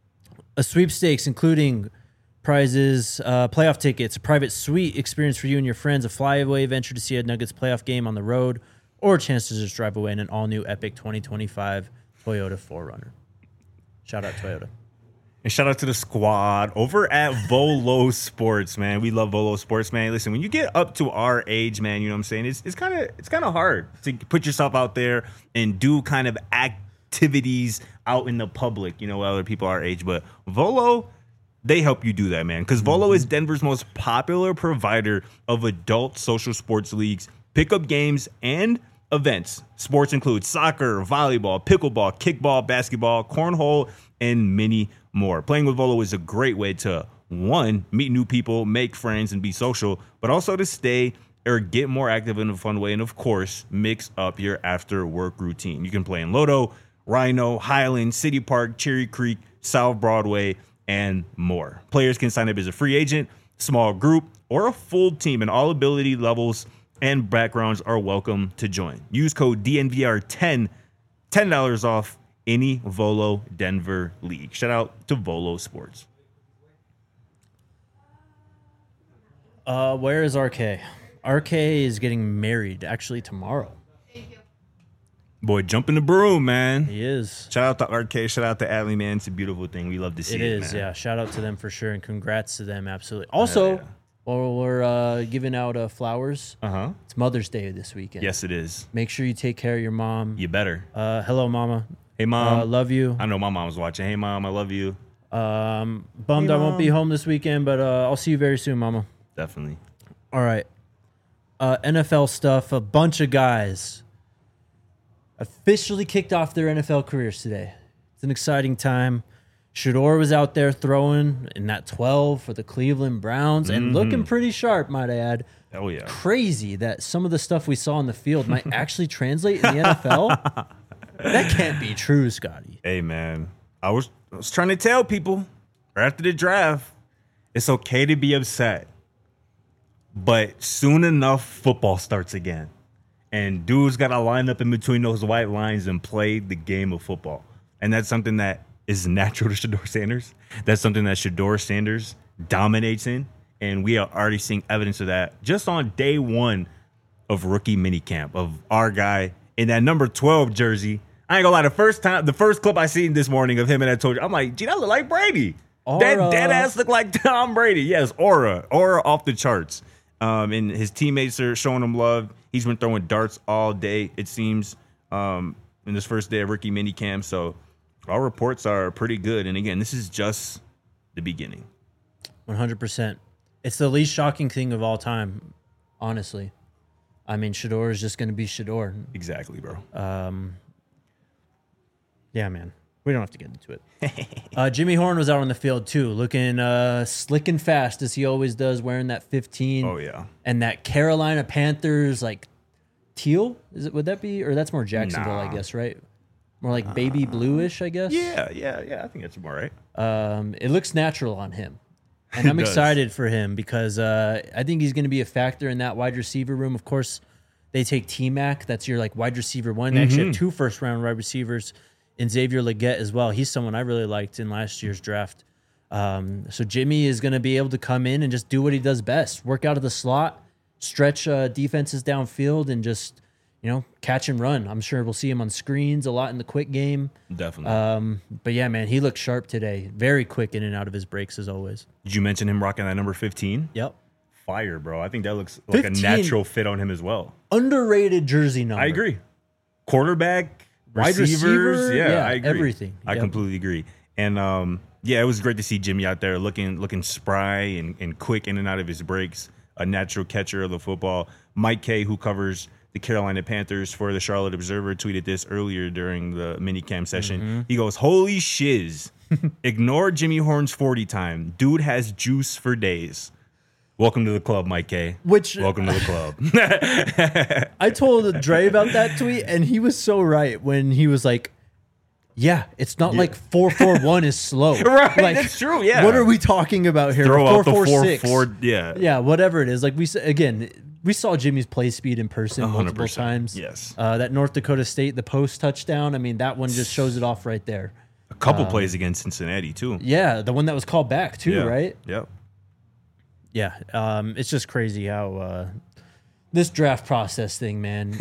a sweepstakes, including prizes, playoff tickets, a private suite experience for you and your friends, a flyaway venture to see a Nuggets playoff game on the road, or a chance to just drive away in an all-new epic 2025 Toyota 4Runner. Shout out Toyota. And shout out to the squad over at Volo Sports, man. We love Volo Sports, man. Listen, when you get up to our age, man, you know what I'm saying? It's kind of hard to put yourself out there and do kind of activities out in the public, you know, with other people our age. But Volo, they help you do that, man. Because Volo is Denver's most popular provider of adult social sports leagues, pickup games, and events. Sports include soccer, volleyball, pickleball, kickball, basketball, cornhole, and many more. Playing with Volo is a great way to, one, meet new people, make friends, and be social, but also to stay or get more active in a fun way, and of course, mix up your after-work routine. You can play in Lodo, Rhino, Highland, City Park, Cherry Creek, South Broadway, and more. Players can sign up as a free agent, small group, or a full team, and all ability levels and backgrounds are welcome to join. Use code DNVR10, $10 off any Volo Denver league. Shout out to Volo Sports. Where is RK? RK is getting married actually tomorrow. Boy, jump in the broom, man. He is. Shout out to RK. Shout out to Adley, man. It's a beautiful thing. We love to see it. It is, man. yeah. Shout out to them for sure, and congrats to them, absolutely. Also, while we're giving out flowers, it's Mother's Day this weekend. Yes, it is. Make sure you take care of your mom. You better. Hello, Mama. Hey, Mom. Love you. I know my mom's watching. Hey, Mom, I love you. Bummed Hey, I won't be Mom. home this weekend, but I'll see you very soon, Mama. Definitely. All right. NFL stuff. A bunch of guys officially kicked off their NFL careers today. It's an exciting time. Shador was out there throwing in that 12 for the Cleveland Browns and looking pretty sharp, might I add. Oh, yeah. Crazy that some of the stuff we saw on the field might actually translate in the NFL. That can't be true, Scotty. Hey, man. I was trying to tell people right after the draft, it's okay to be upset. But soon enough, football starts again. And dudes got to line up in between those white lines and play the game of football. And that's something that is natural to Shador Sanders. That's something that Shador Sanders dominates in. And we are already seeing evidence of that just on day one of rookie minicamp of our guy in that number 12 jersey. I ain't gonna lie, the first clip I seen this morning of him and I told you, I'm like, gee, that look like Brady. That dead ass look like Tom Brady. Yes, aura off the charts. And his teammates are showing him love. He's been throwing darts all day, it seems, in this first day of rookie minicamp. So our reports are pretty good. And again, this is just the beginning. 100%. It's the least shocking thing of all time, honestly. I mean, Shador is just going to be Shador. Exactly, bro. Yeah, man. We don't have to get into it. Jimmy Horn was out on the field too, looking slick and fast as he always does, wearing that 15. Oh, yeah. And that Carolina Panthers like teal. Would that be, or that's more Jacksonville, I guess, right? More like baby bluish, I guess. Yeah. I think that's more right. It looks natural on him. And I'm does. excited for him because I think he's going to be a factor in that wide receiver room. Of course, they take T-Mac. That's your like wide receiver one. They actually have 2 first-round wide receivers in Xavier Legette as well. He's someone I really liked in last year's draft. So Jimmy is going to be able to come in and just do what he does best. Work out of the slot, stretch defenses downfield, and just, catch and run. I'm sure we'll see him on screens a lot in the quick game. Definitely. But yeah, man, he looked sharp today. Very quick in and out of his breaks as always. Did you mention him rocking that number 15? Yep. Fire, bro. I think that looks like 15. a natural fit on him as well. Underrated jersey number. I agree. Quarterback, Wide receivers. receiver, Yeah, I agree. everything. I Yep. completely agree. And it was great to see Jimmy out there looking spry and quick in and out of his breaks. A natural catcher of the football. Mike Kay, who covers the Carolina Panthers for the Charlotte Observer, tweeted this earlier during the minicamp session. He goes, "Holy shiz. Ignore Jimmy Horn's 40 time. Dude has juice for days." Welcome to the club, Mike Kay. Welcome to the club. I told Dre about that tweet, and he was so right when he was like, yeah, it's not like 4-4-1 is slow. Right, Like, that's true, yeah. What are we talking about here? Throw out the 4-4-6. 4-4, yeah. Yeah, whatever it is. Like we saw Jimmy's play speed in person multiple 100%, times. yes. That North Dakota State, the post touchdown. I mean, that one just shows it off right there. A couple plays against Cincinnati, too. Yeah, the one that was called back too, Yeah. right? Yep. Yeah, it's just crazy how this draft process thing, man.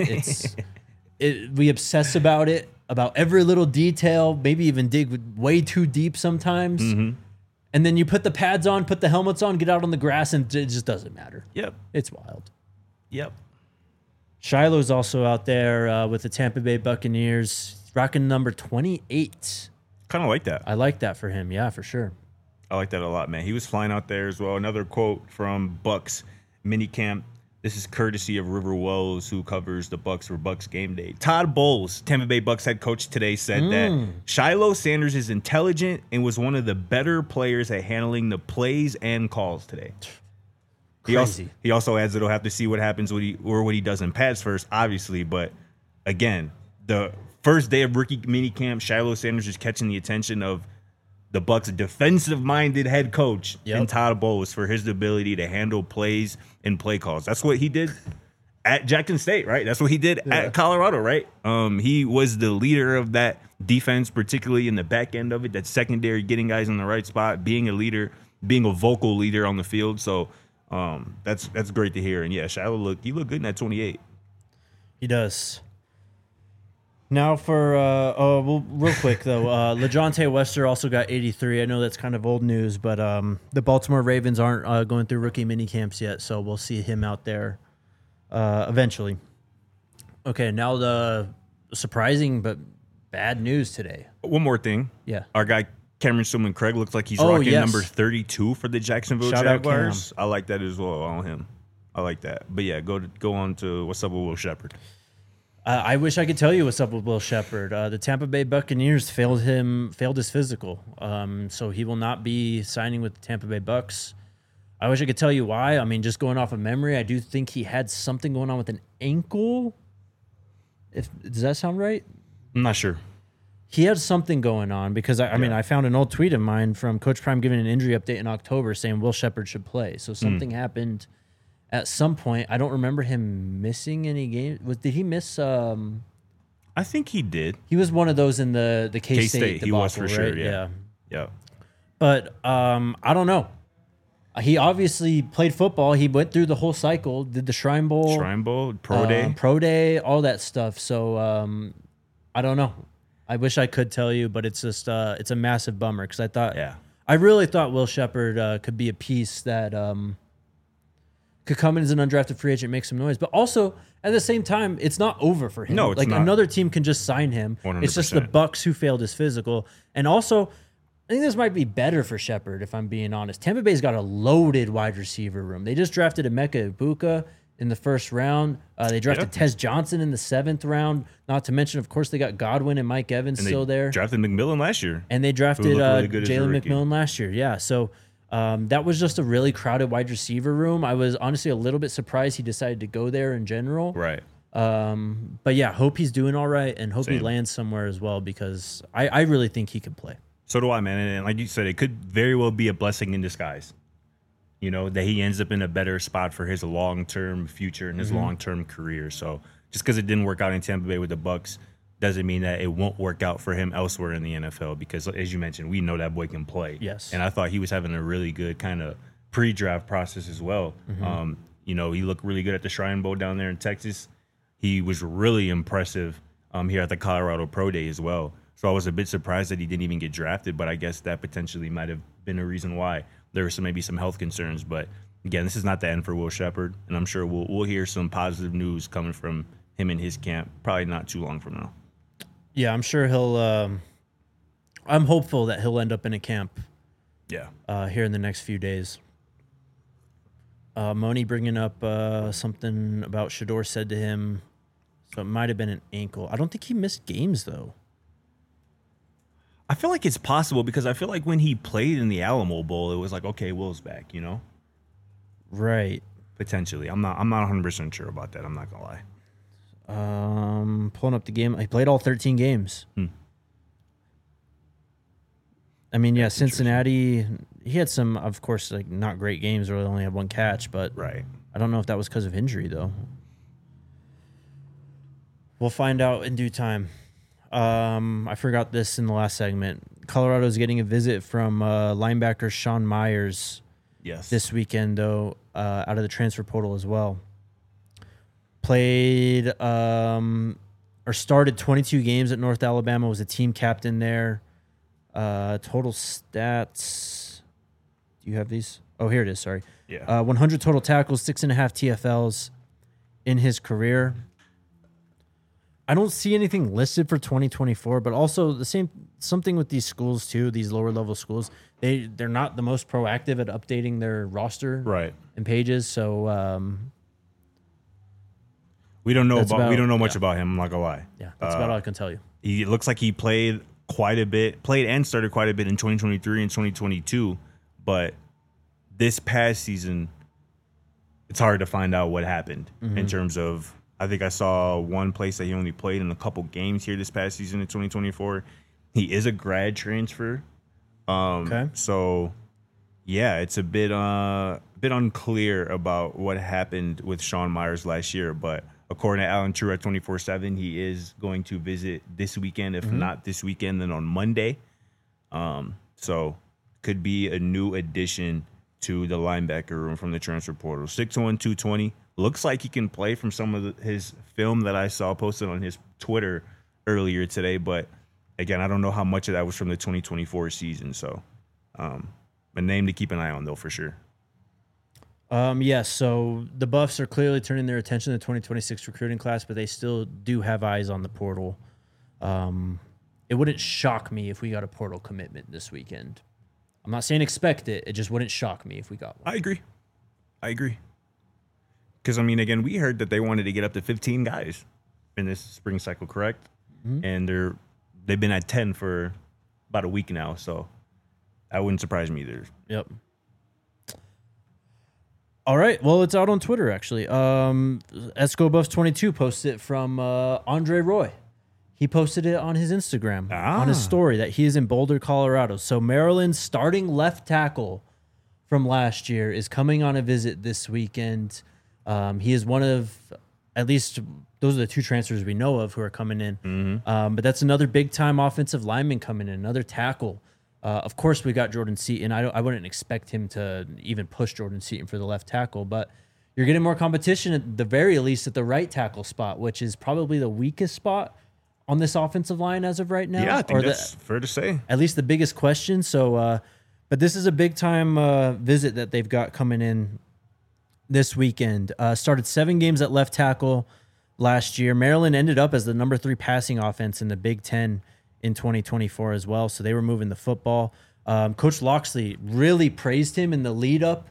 We obsess about it, about every little detail, maybe even dig way too deep sometimes. And then you put the pads on, put the helmets on, get out on the grass, and it just doesn't matter. Yep. It's wild. Yep. Shiloh's also out there with the Tampa Bay Buccaneers, rocking number 28. Kind of like that. I like that for him. Yeah, for sure. I like that a lot, man. He was flying out there as well. Another quote from Bucks minicamp. This is courtesy of River Wells, who covers the Bucks for Bucks Game Day. Todd Bowles, Tampa Bay Bucks head coach today, said that Shiloh Sanders is intelligent and was one of the better players at handling the plays and calls today. Crazy. He also adds that he'll have to see what happens what he does in pads first, obviously. But again, the first day of rookie minicamp, Shiloh Sanders is catching the attention of the Bucks' defensive-minded head coach in Todd Bowles for his ability to handle plays and play calls. That's what he did at Jackson State, right? That's what he did at Colorado, right? He was the leader of that defense, particularly in the back end of it, that secondary, getting guys in the right spot, being a leader, being a vocal leader on the field. So that's great to hear. And yeah, Shiloh looked good in that 28. He does. Now for real quick though, LaJohntay Wester also got 83. I know that's kind of old news, but the Baltimore Ravens aren't going through rookie mini camps yet, so we'll see him out there eventually. Okay, now the surprising but bad news today. One more thing. Yeah. Our guy Cameron Stillman Craig looks like he's Oh, rocking yes. number 32 for the Jacksonville Shout out Jaguars. I like that as well on him. I like that. But yeah, go on to what's up with Will Shepherd. I wish I could tell you what's up with Will Shepherd. The Tampa Bay Buccaneers failed his physical, so he will not be signing with the Tampa Bay Bucks. I wish I could tell you why. I mean, just going off of memory, I do think he had something going on with an ankle. Does that sound right? I'm not sure. He had something going on because I mean, I found an old tweet of mine from Coach Prime giving an injury update in October saying Will Shepherd should play. So something happened at some point. I don't remember him missing any games. Did he miss? I think he did. He was one of those in the K-State debacle, he was for sure, right? yeah. Yeah. But I don't know. He obviously played football. He went through the whole cycle, did the Shrine Bowl, Pro Day, all that stuff. So I don't know. I wish I could tell you, but it's just it's a massive bummer because I really thought Will Shepherd could be a piece that could come in as an undrafted free agent, make some noise. But also, at the same time, it's not over for him. No, it's not. Another team can just sign him. 100%. It's just the Bucks who failed his physical. And also, I think this might be better for Shepherd, if I'm being honest. Tampa Bay's got a loaded wide receiver room. They just drafted Emeka Ibuka. in the first round. They drafted Tez Johnson in the 7th round. Not to mention, of course, they got Godwin and Mike Evans still there. Drafted McMillan last year. And they drafted really good as a Jalen rookie. McMillan last year. Yeah, so that was just a really crowded wide receiver room. I was honestly a little bit surprised he decided to go there in general. Right. But yeah, hope he's doing all right and hope he Same. lands somewhere as well because I really think he could play. So do I, man. And like you said, it could very well be a blessing in disguise. You know, that he ends up in a better spot for his long-term future and his long-term career. So just because it didn't work out in Tampa Bay with the Bucks doesn't mean that it won't work out for him elsewhere in the NFL because, as you mentioned, we know that boy can play. Yes. And I thought he was having a really good kind of pre-draft process as well. You know, he looked really good at the Shrine Bowl down there in Texas. He was really impressive here at the Colorado Pro Day as well. So I was a bit surprised that he didn't even get drafted, but I guess that potentially might have been a reason why. There were maybe some health concerns, but again, this is not the end for Will Shepherd, and I'm sure we'll hear some positive news coming from him in his camp probably not too long from now. Yeah, I'm sure he'll. I'm hopeful that he'll end up in a camp. Yeah. Here in the next few days. Moni bringing up something about Shador said to him, so it might have been an ankle. I don't think he missed games though. I feel like it's possible because I feel like when he played in the Alamo Bowl, it was like, okay, Will's back, you know? Right. Potentially. I'm not 100% sure about that. I'm not going to lie. Pulling up the game. He played all 13 games. I mean, yeah, Cincinnati, he had some, of course, like not great games or only had one catch, but Right. I don't know if that was because of injury, though. We'll find out in due time. I forgot this in the last segment. Colorado's getting a visit from linebacker Sean Myers Yes. this weekend, though, out of the transfer portal as well. Played or started 22 games at North Alabama, was a team captain there. Total stats. Do you have these? Oh, here it is. Sorry. Yeah. 100 total tackles, 6.5 TFLs in his career. I don't see anything listed for 2024, but also something with these schools too, these lower level schools. They're not the most proactive at updating their roster Right. and pages. So We don't know That's much about him, I'm not going to lie. yeah, that's about all I can tell you. It looks like he played and started quite a bit in 2023 and 2022, but this past season, it's hard to find out what happened in terms of, I think I saw one place that he only played in a couple games here this past season in 2024. He is a grad transfer. Okay. So, yeah, it's a bit unclear about what happened with Sean Myers last year, but according to Alan True at 24/7, he is going to visit this weekend. If not this weekend, then on Monday. So could be a new addition to the linebacker room from the transfer portal. 6'1", 220. Looks like he can play from some of his film that I saw posted on his Twitter earlier today. But again, I don't know how much of that was from the 2024 season. So a name to keep an eye on, though, for sure. Yes, so the Buffs are clearly turning their attention to the 2026 recruiting class, but they still do have eyes on the portal. It wouldn't shock me if we got a portal commitment this weekend. I'm not saying expect it. It just wouldn't shock me if we got one. I agree. Because, I mean, again, we heard that they wanted to get up to 15 guys in this spring cycle, correct? And they've been at 10 for about a week now, so that wouldn't surprise me either. Yep. All right. Well, it's out on Twitter, actually. EscoBuffs22 posted it from Andre Roy. He posted it on his Instagram, on his story, that he is in Boulder, Colorado. So Maryland's starting left tackle from last year is coming on a visit this weekend. He is one of, at least those are the two transfers we know of who are coming in. But that's another big-time offensive lineman coming in, another tackle. Of course, we got Jordan Seaton. I wouldn't expect him to even push Jordan Seaton for the left tackle, but you're getting more competition at the very least at the right tackle spot, which is probably the weakest spot on this offensive line as of right now. Yeah, I think that's fair to say. At least the biggest question. So, but this is a big time visit that they've got coming in this weekend. Started 7 games at left tackle last year. Maryland ended up as the number 3 passing offense in the Big Ten in 2024 as well. So they were moving the football. Coach Loxley really praised him in the lead up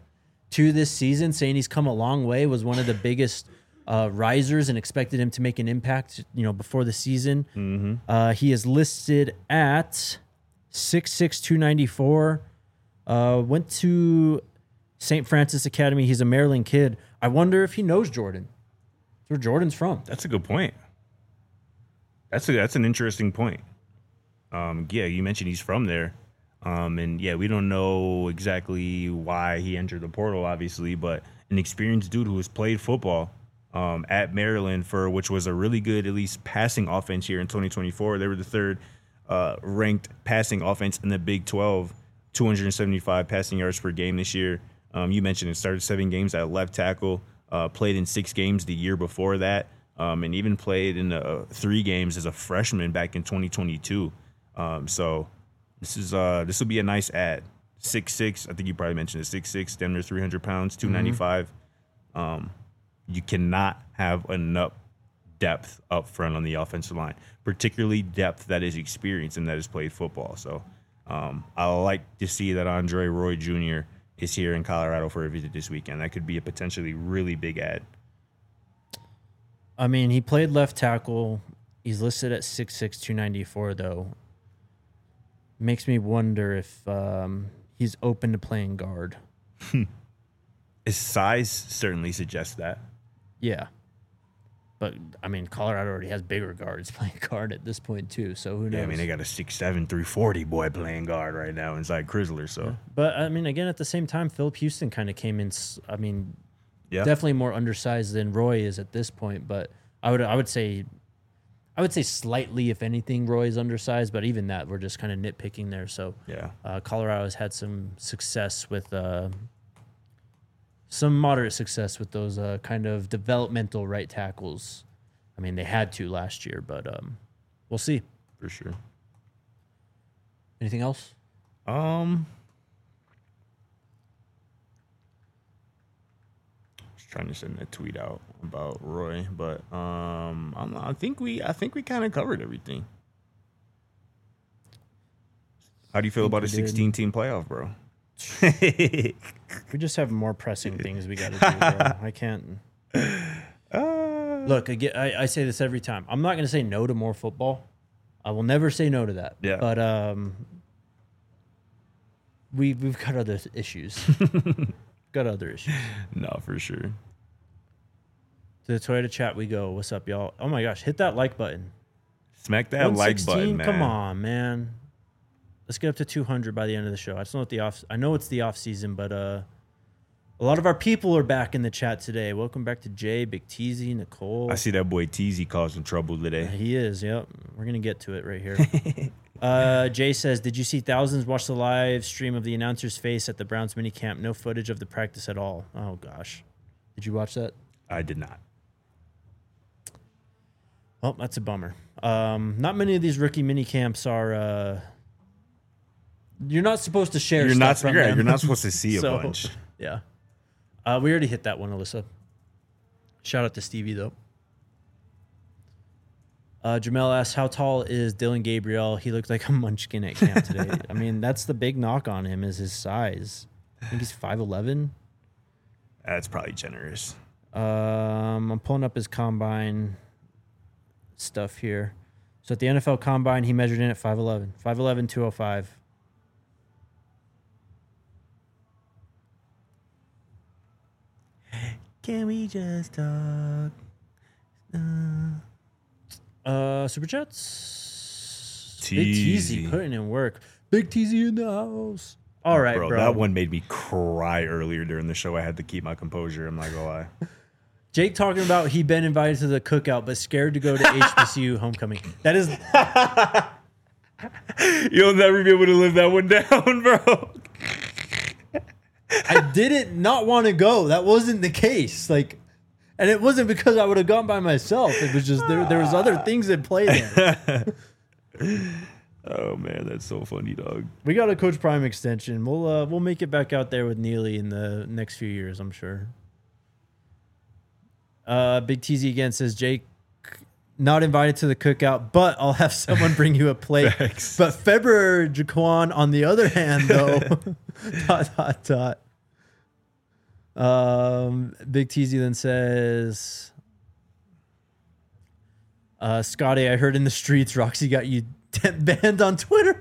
to this season, saying he's come a long way, was one of the biggest risers, and expected him to make an impact, before the season. Mm-hmm. He is listed at 6'6", 294. Went to St. Francis Academy. He's a Maryland kid. I wonder if he knows Jordan. That's where Jordan's from. That's a good point. That's an interesting point. Yeah, you mentioned he's from there. And yeah, we don't know exactly why he entered the portal, obviously, but an experienced dude who has played football at Maryland, which was a really good, at least, passing offense here in 2024. They were the third ranked passing offense in the Big 12, 275 passing yards per game this year. You mentioned it started 7 games at left tackle, played in 6 games the year before that, and even played in 3 games as a freshman back in 2022. So this will be a nice add. 6'6", I think you probably mentioned it, 6'6", damn near 300 pounds, 295. You cannot have enough depth up front on the offensive line, particularly depth that is experienced and that has played football. So I like to see that Andre Roy Jr. is here in Colorado for a visit this weekend. That could be a potentially really big add. I mean, he played left tackle. He's listed at 6'6", 294, though. Makes me wonder if he's open to playing guard. His size certainly suggests that. Yeah. But, I mean, Colorado already has bigger guards playing guard at this point, too, so who knows? Yeah, I mean, they got a 6'7", 340 boy playing guard right now inside Chrysler, so. Yeah. But, I mean, again, at the same time, Philip Houston kind of came in, definitely more undersized than Roy is at this point, but I would say slightly, if anything, Roy is undersized, but even that, we're just kind of nitpicking there. So, yeah, Colorado has had some success with some moderate success with those kind of developmental right tackles. I mean, they had to last year, but we'll see. For sure. Anything else? Was trying to send a tweet out about Roy, but I think we kind of covered everything. How do you feel about a 16-team playoff, bro? We just have more pressing things we got to do, bro. I can't. Look, again, I say this every time. I'm not going to say no to more football. I will never say no to that. Yeah. But we've got other issues. Got other issues. No, for sure. To the Toyota chat we go. What's up, y'all? Oh my gosh, hit that like button. Smack that like button, man. Come on, man. Let's get up to 200 by the end of the show. I know it's the off season, but a lot of our people are back in the chat today. Welcome back to Jay, Big Teasy, Nicole. I see that boy Teasy causing trouble today. He is. Yep. We're gonna get to it right here. Jay says, "Did you see thousands watch the live stream of the announcer's face at the Browns minicamp? No footage of the practice at all." Oh gosh, did you watch that? I did not. Well, that's a bummer. Not many of these rookie minicamps are. You're not supposed to share. You're stuff not. from them. You're not supposed to see a bunch. Yeah. We already hit that one, Alyssa. Shout out to Stevie though. Jamel asks, how tall is Dylan Gabriel? He looked like a munchkin at camp today. I mean, that's the big knock on him is his size. I think he's 5'11". That's probably generous. I'm pulling up his combine stuff here. So at the NFL Combine, he measured in at 5'11". 5'11", 205. Can we just talk? Super Chats. Teasy. Big Teasy putting in work. Big Teasy in the house. All right, bro. That one made me cry earlier during the show. I had to keep my composure. I'm not gonna lie. Jake talking about he'd been invited to the cookout, but scared to go to HBCU homecoming. That is. You'll never be able to live that one down, bro. I didn't not want to go. That wasn't the case. And it wasn't because I would have gone by myself. It was just there was other things at play there. Oh man, that's so funny, dog. We got a Coach Prime extension. We'll make it back out there with Neely in the next few years, I'm sure. Big TZ again says, Jake, not invited to the cookout, but I'll have someone bring you a plate. Thanks. But February Jaquan, on the other hand, though, ... Big TZ then says, Scotty, I heard in the streets Roxy got you banned on Twitter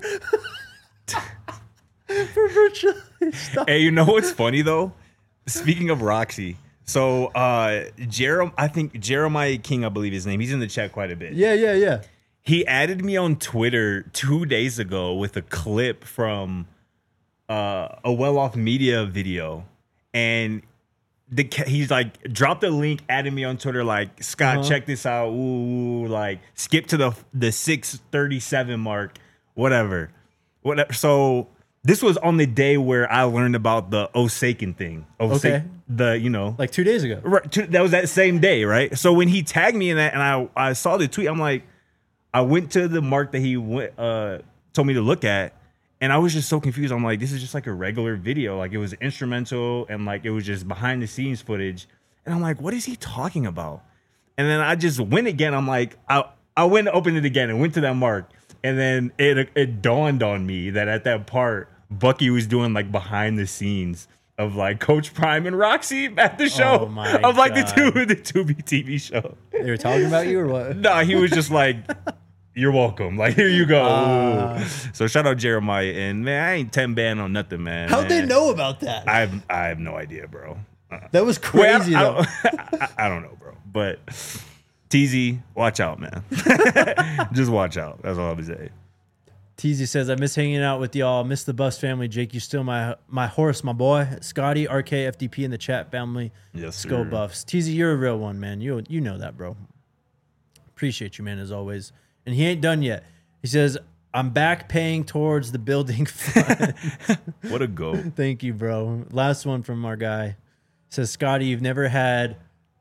for virtually stuff. Hey, you know what's funny though? Speaking of Roxy, so I think Jeremiah King, I believe his name. He's in the chat quite a bit. Yeah. He added me on Twitter 2 days ago with a clip from a well-off media video, and he's like dropped a link, added me on Twitter like, Scott, check this out. Ooh, like skip to the 6:37 mark, whatever. So this was on the day where I learned about the Osakin thing. Okay. Like 2 days ago. Right, that was that same day, right? So when he tagged me in that, and I saw the tweet, I'm like, I went to the mark that he told me to look at, and I was just so confused. I'm like, this is just like a regular video. Like, it was instrumental, and like it was just behind the scenes footage. And I'm like, what is he talking about? And then I just went again. I'm like, I went and opened it again and went to that mark. And then it dawned on me that at that part, Bucky was doing like behind the scenes of like Coach Prime and Roxy at the show. Oh my of like God. the Tubi TV show. They were talking about you or what? Nah, he was just like, you're welcome. Like, here you go. So shout out Jeremiah. And man, I ain't 10 banned on nothing, man. How'd they know about that? I have no idea, bro. That was crazy, though. I don't know, bro. But TZ, watch out, man. Just watch out. That's all I'm gonna say. TZ says, I miss hanging out with y'all. Miss the Bus family. Jake, you still my horse, my boy. Scotty, RK, FDP in the chat family. Yes, sir. Skull Buffs. TZ, you're a real one, man. You know that, bro. Appreciate you, man, as always. And he ain't done yet. He says, I'm back paying towards the building fund. What a go. Thank you, bro. Last one from our guy. Says, Scotty, you've never had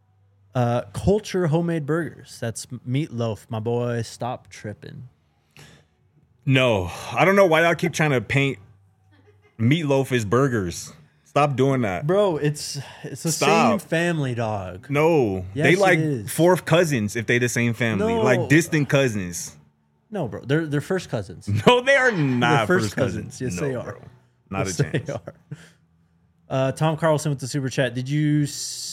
Culture homemade burgers. That's Meatloaf, my boy. Stop tripping. No, I don't know why y'all keep trying to paint Meatloaf as burgers. Stop doing that. Bro, it's the Stop. same family, dog. No, Yes, they it like is. fourth cousins if they the same family. No. Like distant cousins. No, bro. They're first cousins. No, they are not They're first cousins. Yes, No, they are. bro. Not Yes, a chance. they are. Tom Carlson with the super chat. Did you?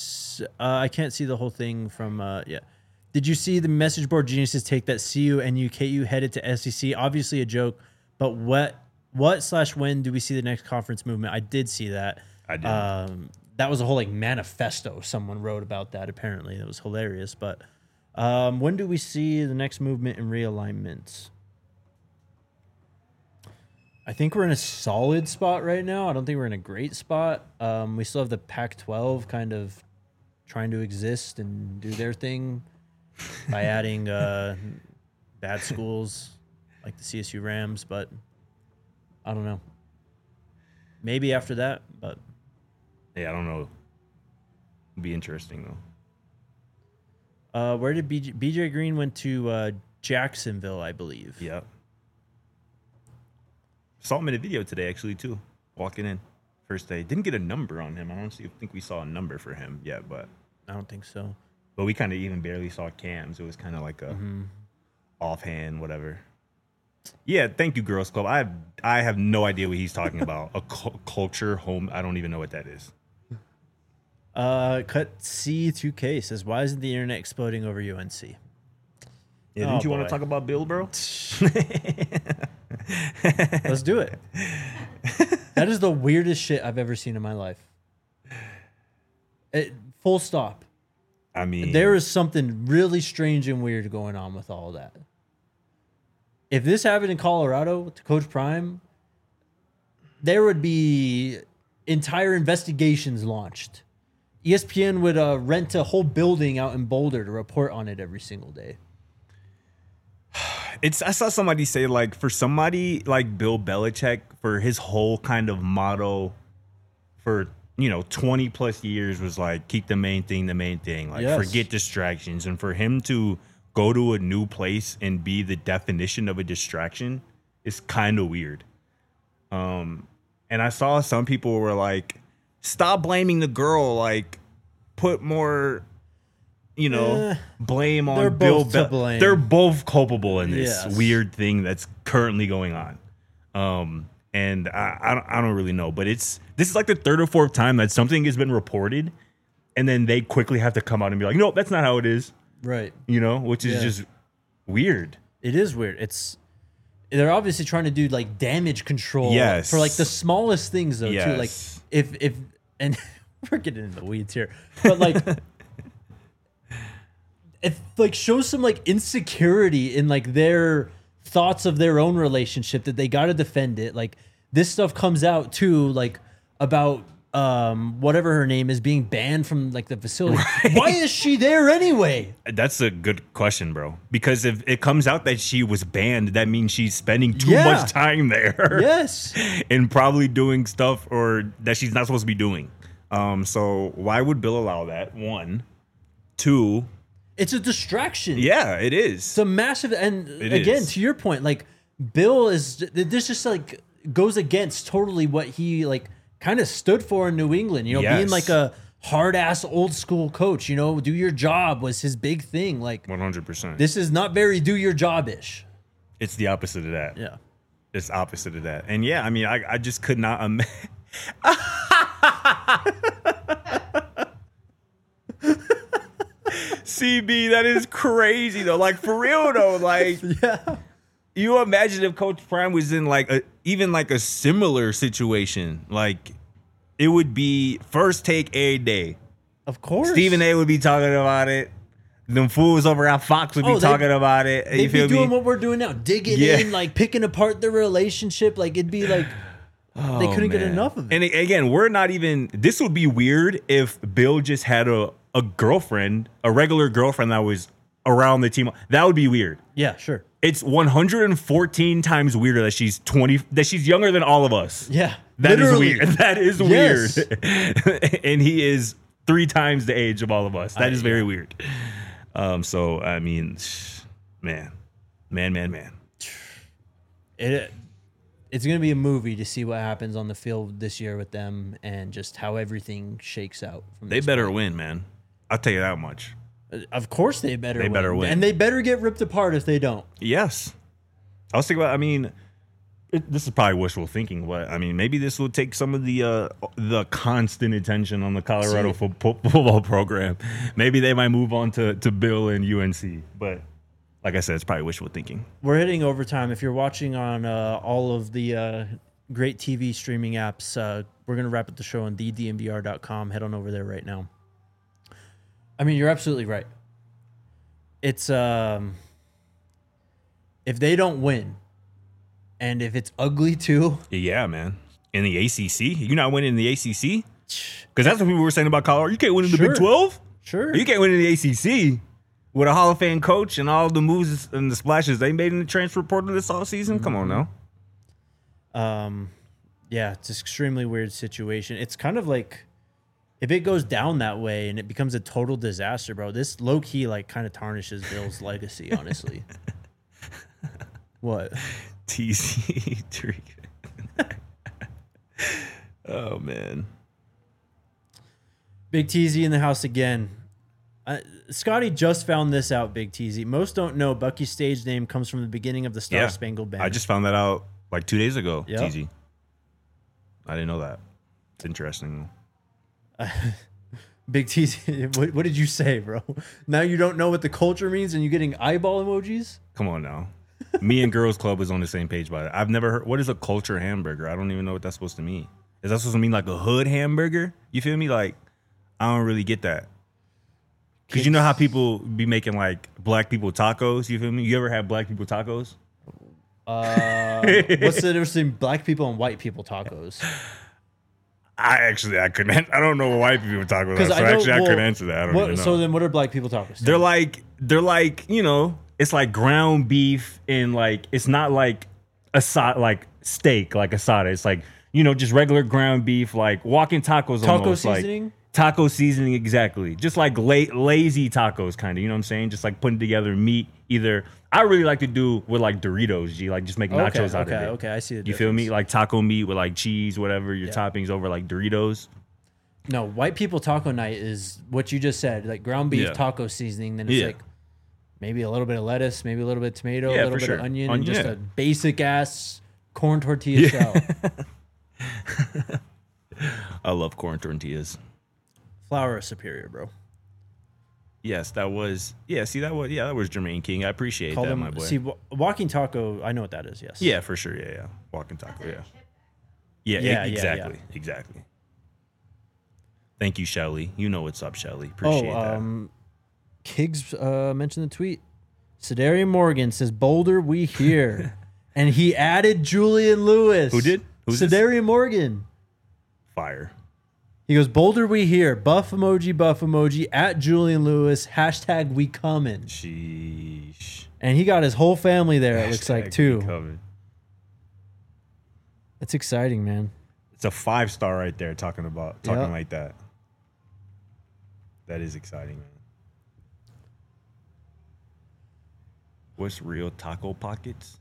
I can't see the whole thing from. Yeah. Did you see the message board geniuses take that CU and UKU headed to SEC? Obviously a joke, but what/when do we see the next conference movement? I did see that. I did. That was a whole like manifesto someone wrote about that. Apparently, that was hilarious. But when do we see the next movement and realignment? I think we're in a solid spot right now. I don't think we're in a great spot. We still have the Pac-12 kind of trying to exist and do their thing by adding bad schools like the CSU Rams, but I don't know. Maybe after that, but Yeah, I don't know. It'd be interesting though. where did BJ Green went to Jacksonville, I believe. Yeah. Saw him in a video today, actually, too. Walking in. First day. Didn't get a number on him. I don't think we saw a number for him yet, but I don't think so. we kind of even barely saw cams. It was kind of like a offhand, whatever. Yeah, thank you, Girls Club. I have no idea what he's talking about. A culture home. I don't even know what that is. Cut C2K says, why isn't the internet exploding over UNC? Yeah, didn't you want boy. to talk about Bill, bro? Let's do it. That is the weirdest shit I've ever seen in my life. Full stop. I mean, There is something really strange and weird going on with all that. If this happened in Colorado to Coach Prime, there would be entire investigations launched. ESPN would rent a whole building out in Boulder to report on it every single day. I saw somebody say, like, for somebody like Bill Belichick, for his whole kind of motto for 20 plus years was like, keep the main thing, like, Yes. forget distractions. And for him to go to a new place and be the definition of a distraction is kind of weird. And I saw some people were like, stop blaming the girl, like, put more blame on they're Bill both to blame. They're both culpable in this Yes. weird thing that's currently going on. And I don't really know, but this is like the third or fourth time that something has been reported, and then they quickly have to come out and be like, no, that's not how it is. Right. You know, which is just weird. It is weird. They're obviously trying to do like damage control for like the smallest things though too. Like if and we're getting into the weeds here, but like if like shows some like insecurity in like their thoughts of their own relationship that they got to defend it. Like this stuff comes out too, like about whatever her name is being banned from like the facility. Right. Why is she there anyway? That's a good question, bro. Because if it comes out that she was banned, that means she's spending too much time there. Yes. And probably doing stuff or that she's not supposed to be doing. So why would Bill allow that? One. Two. It's a distraction. Yeah, it is. It's a massive, and again, to your point, like Bill this just like goes against totally what he like kind of stood for in New England, you know, being like a hard ass old school coach, you know, do your job was his big thing. Like 100%. This is not very do your job ish. It's the opposite of that. Yeah. It's opposite of that. And yeah, I mean, I just could not imagine. CB, that is crazy though. Like for real though, like you imagine if Coach Prime was in like even like a similar situation, like it would be first take a day. Of course, Stephen A would be talking about it. Them fools over at Fox would be talking about it. They'd be doing what we're doing now, digging in, like picking apart the relationship. Like it'd be like they couldn't get enough of it. And again, we're not even. This would be weird if Bill just had a girlfriend, a regular girlfriend that was around the team. That would be weird. Yeah, sure. It's 114 times weirder that she's 20, that she's younger than all of us. Yeah. That is weird. That is weird. Yes. And he is 3 times the age of all of us. That is very weird. So, I mean, man. It's going to be a movie to see what happens on the field this year with them and just how everything shakes out. They better win, man. I'll tell you that much. Of course they better win. They better win. And they better get ripped apart if they don't. Yes. I was thinking about, I mean, this is probably wishful thinking, but I mean, maybe this will take some of the constant attention on the Colorado football program. Maybe they might move on to Bill and UNC. But like I said, it's probably wishful thinking. We're hitting overtime. If you're watching on all of the great TV streaming apps, we're going to wrap up the show on thednvr.com. Head on over there right now. I mean, you're absolutely right. It's if they don't win, and if it's ugly too. Yeah, man. In the ACC, you're not winning in the ACC because that's what people were saying about Colorado. You can't win in the Big 12. Sure, you can't win in the ACC with a Hall of Fame coach and all the moves and the splashes they made in the transfer portal this offseason. Mm-hmm. Come on now. Yeah, it's an extremely weird situation. It's kind of like, if it goes down that way and it becomes a total disaster, bro, this low key like kind of tarnishes Bill's legacy, honestly. What? TZ. Oh man. Big TZ in the house again. Scotty just found this out, Big TZ. Most don't know Bucky's stage name comes from the beginning of the Star Spangled Banner. I just found that out like 2 days ago, yep. TZ. I didn't know that. It's interesting. Big TZ, what did you say, bro? Now you don't know what the culture means and you're getting eyeball emojis? Come on now. Me and Girls Club is on the same page by it. I've never heard, what is a culture hamburger? I don't even know what that's supposed to mean. Is that supposed to mean like a hood hamburger? You feel me? Like, I don't really get that. Because you know how people be making like black people tacos? You feel me? You ever had black people tacos? What's the difference between black people and white people tacos? I couldn't. I don't know what white people tacos are. So I couldn't answer that. I don't even know. So then what are black people tacos? They're like, you know, it's like ground beef and like, it's not like like steak, like asada. It's like, you know, just regular ground beef, like walking tacos. Taco seasoning? Like, taco seasoning, exactly. Just like lazy tacos, kind of. You know what I'm saying? Just like putting together meat. Either I really like to do with like Doritos, G, like just make nachos out of it. Okay, I see the difference. You feel me? Like taco meat with like cheese, whatever, your toppings over like Doritos. No, white people taco night is what you just said, like ground beef, taco seasoning. Then it's like maybe a little bit of lettuce, maybe a little bit of tomato, a little bit of onion, and just a basic ass Corn tortilla shell. I love corn tortillas. Flour is superior, bro. Yes, that was that was Jermaine King. I appreciate Call that, them, my boy. see, walking taco, I know what that is, yes. Yeah, for sure. Yeah. Walking taco, yeah. Yeah, Exactly. Thank you, Shelly. You know what's up, Shelly. Appreciate that. Kiggs mentioned the tweet. Sedarian Morgan says, Boulder, we here. And he added Julian Lewis. Who did? Who's this? Sedarian Morgan. Fire. He goes, Boulder, we here. Buff emoji, at Julian Lewis, hashtag we coming. Sheesh. And he got his whole family there, it looks like, too. Covered. That's exciting, man. It's a 5-star right there talking Yep. like that. That is exciting, man. What's real taco pockets?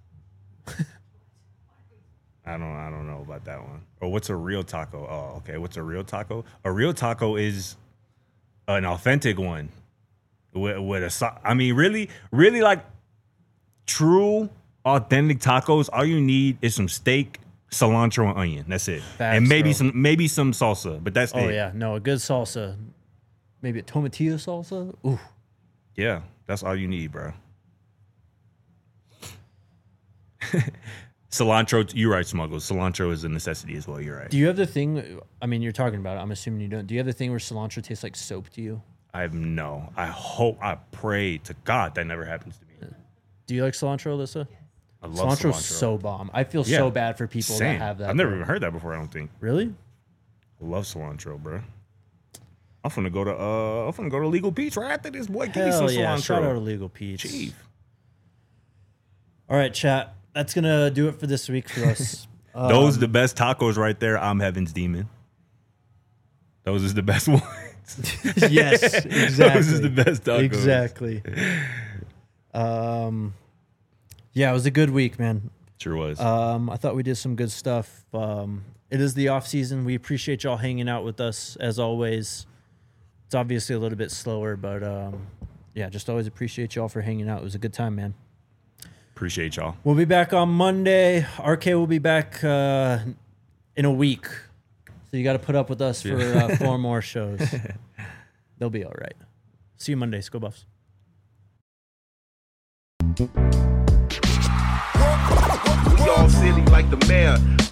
I don't know about that one. Or what's a real taco? Oh, okay. What's a real taco? A real taco is an authentic one with a. I mean, really, like true authentic tacos. All you need is some steak, cilantro, and onion. That's it. Facts, and maybe bro. some salsa, but that's it. Oh, yeah. No, a good salsa. Maybe a tomatillo salsa. Ooh. Yeah, that's all you need, bro. Cilantro, you're right, Smuggles. Cilantro is a necessity as well. You're right. Do you have the thing? I mean, you're talking about it. I'm assuming you don't. Do you have the thing where cilantro tastes like soap to you? I pray to God that never happens to me. Do you like cilantro, Alyssa? I love Cilantro's cilantro. so bomb. I feel Yeah. so bad for people Same. that have that. I've never bro. even heard that before. I don't think. Really? I love cilantro, bro. I'm finna go to Legal Peach right after this. Boy, give me some Hell yeah! cilantro. Shout out to Legal Peach. Chief. All right, chat. That's gonna do it for this week for us. Those are the best tacos right there. I'm Heaven's Demon. Those is the best ones. Yes, exactly. Those is the best tacos. Exactly. Yeah, it was a good week, man. Sure was. I thought we did some good stuff. It is the off season. We appreciate y'all hanging out with us as always. It's obviously a little bit slower, but yeah, just always appreciate y'all for hanging out. It was a good time, man. Appreciate y'all. We'll be back on Monday. RK will be back in a week. So you got to put up with us for 4 more shows. They'll be all right. See you Monday. Go Buffs. We all silly like the mayor.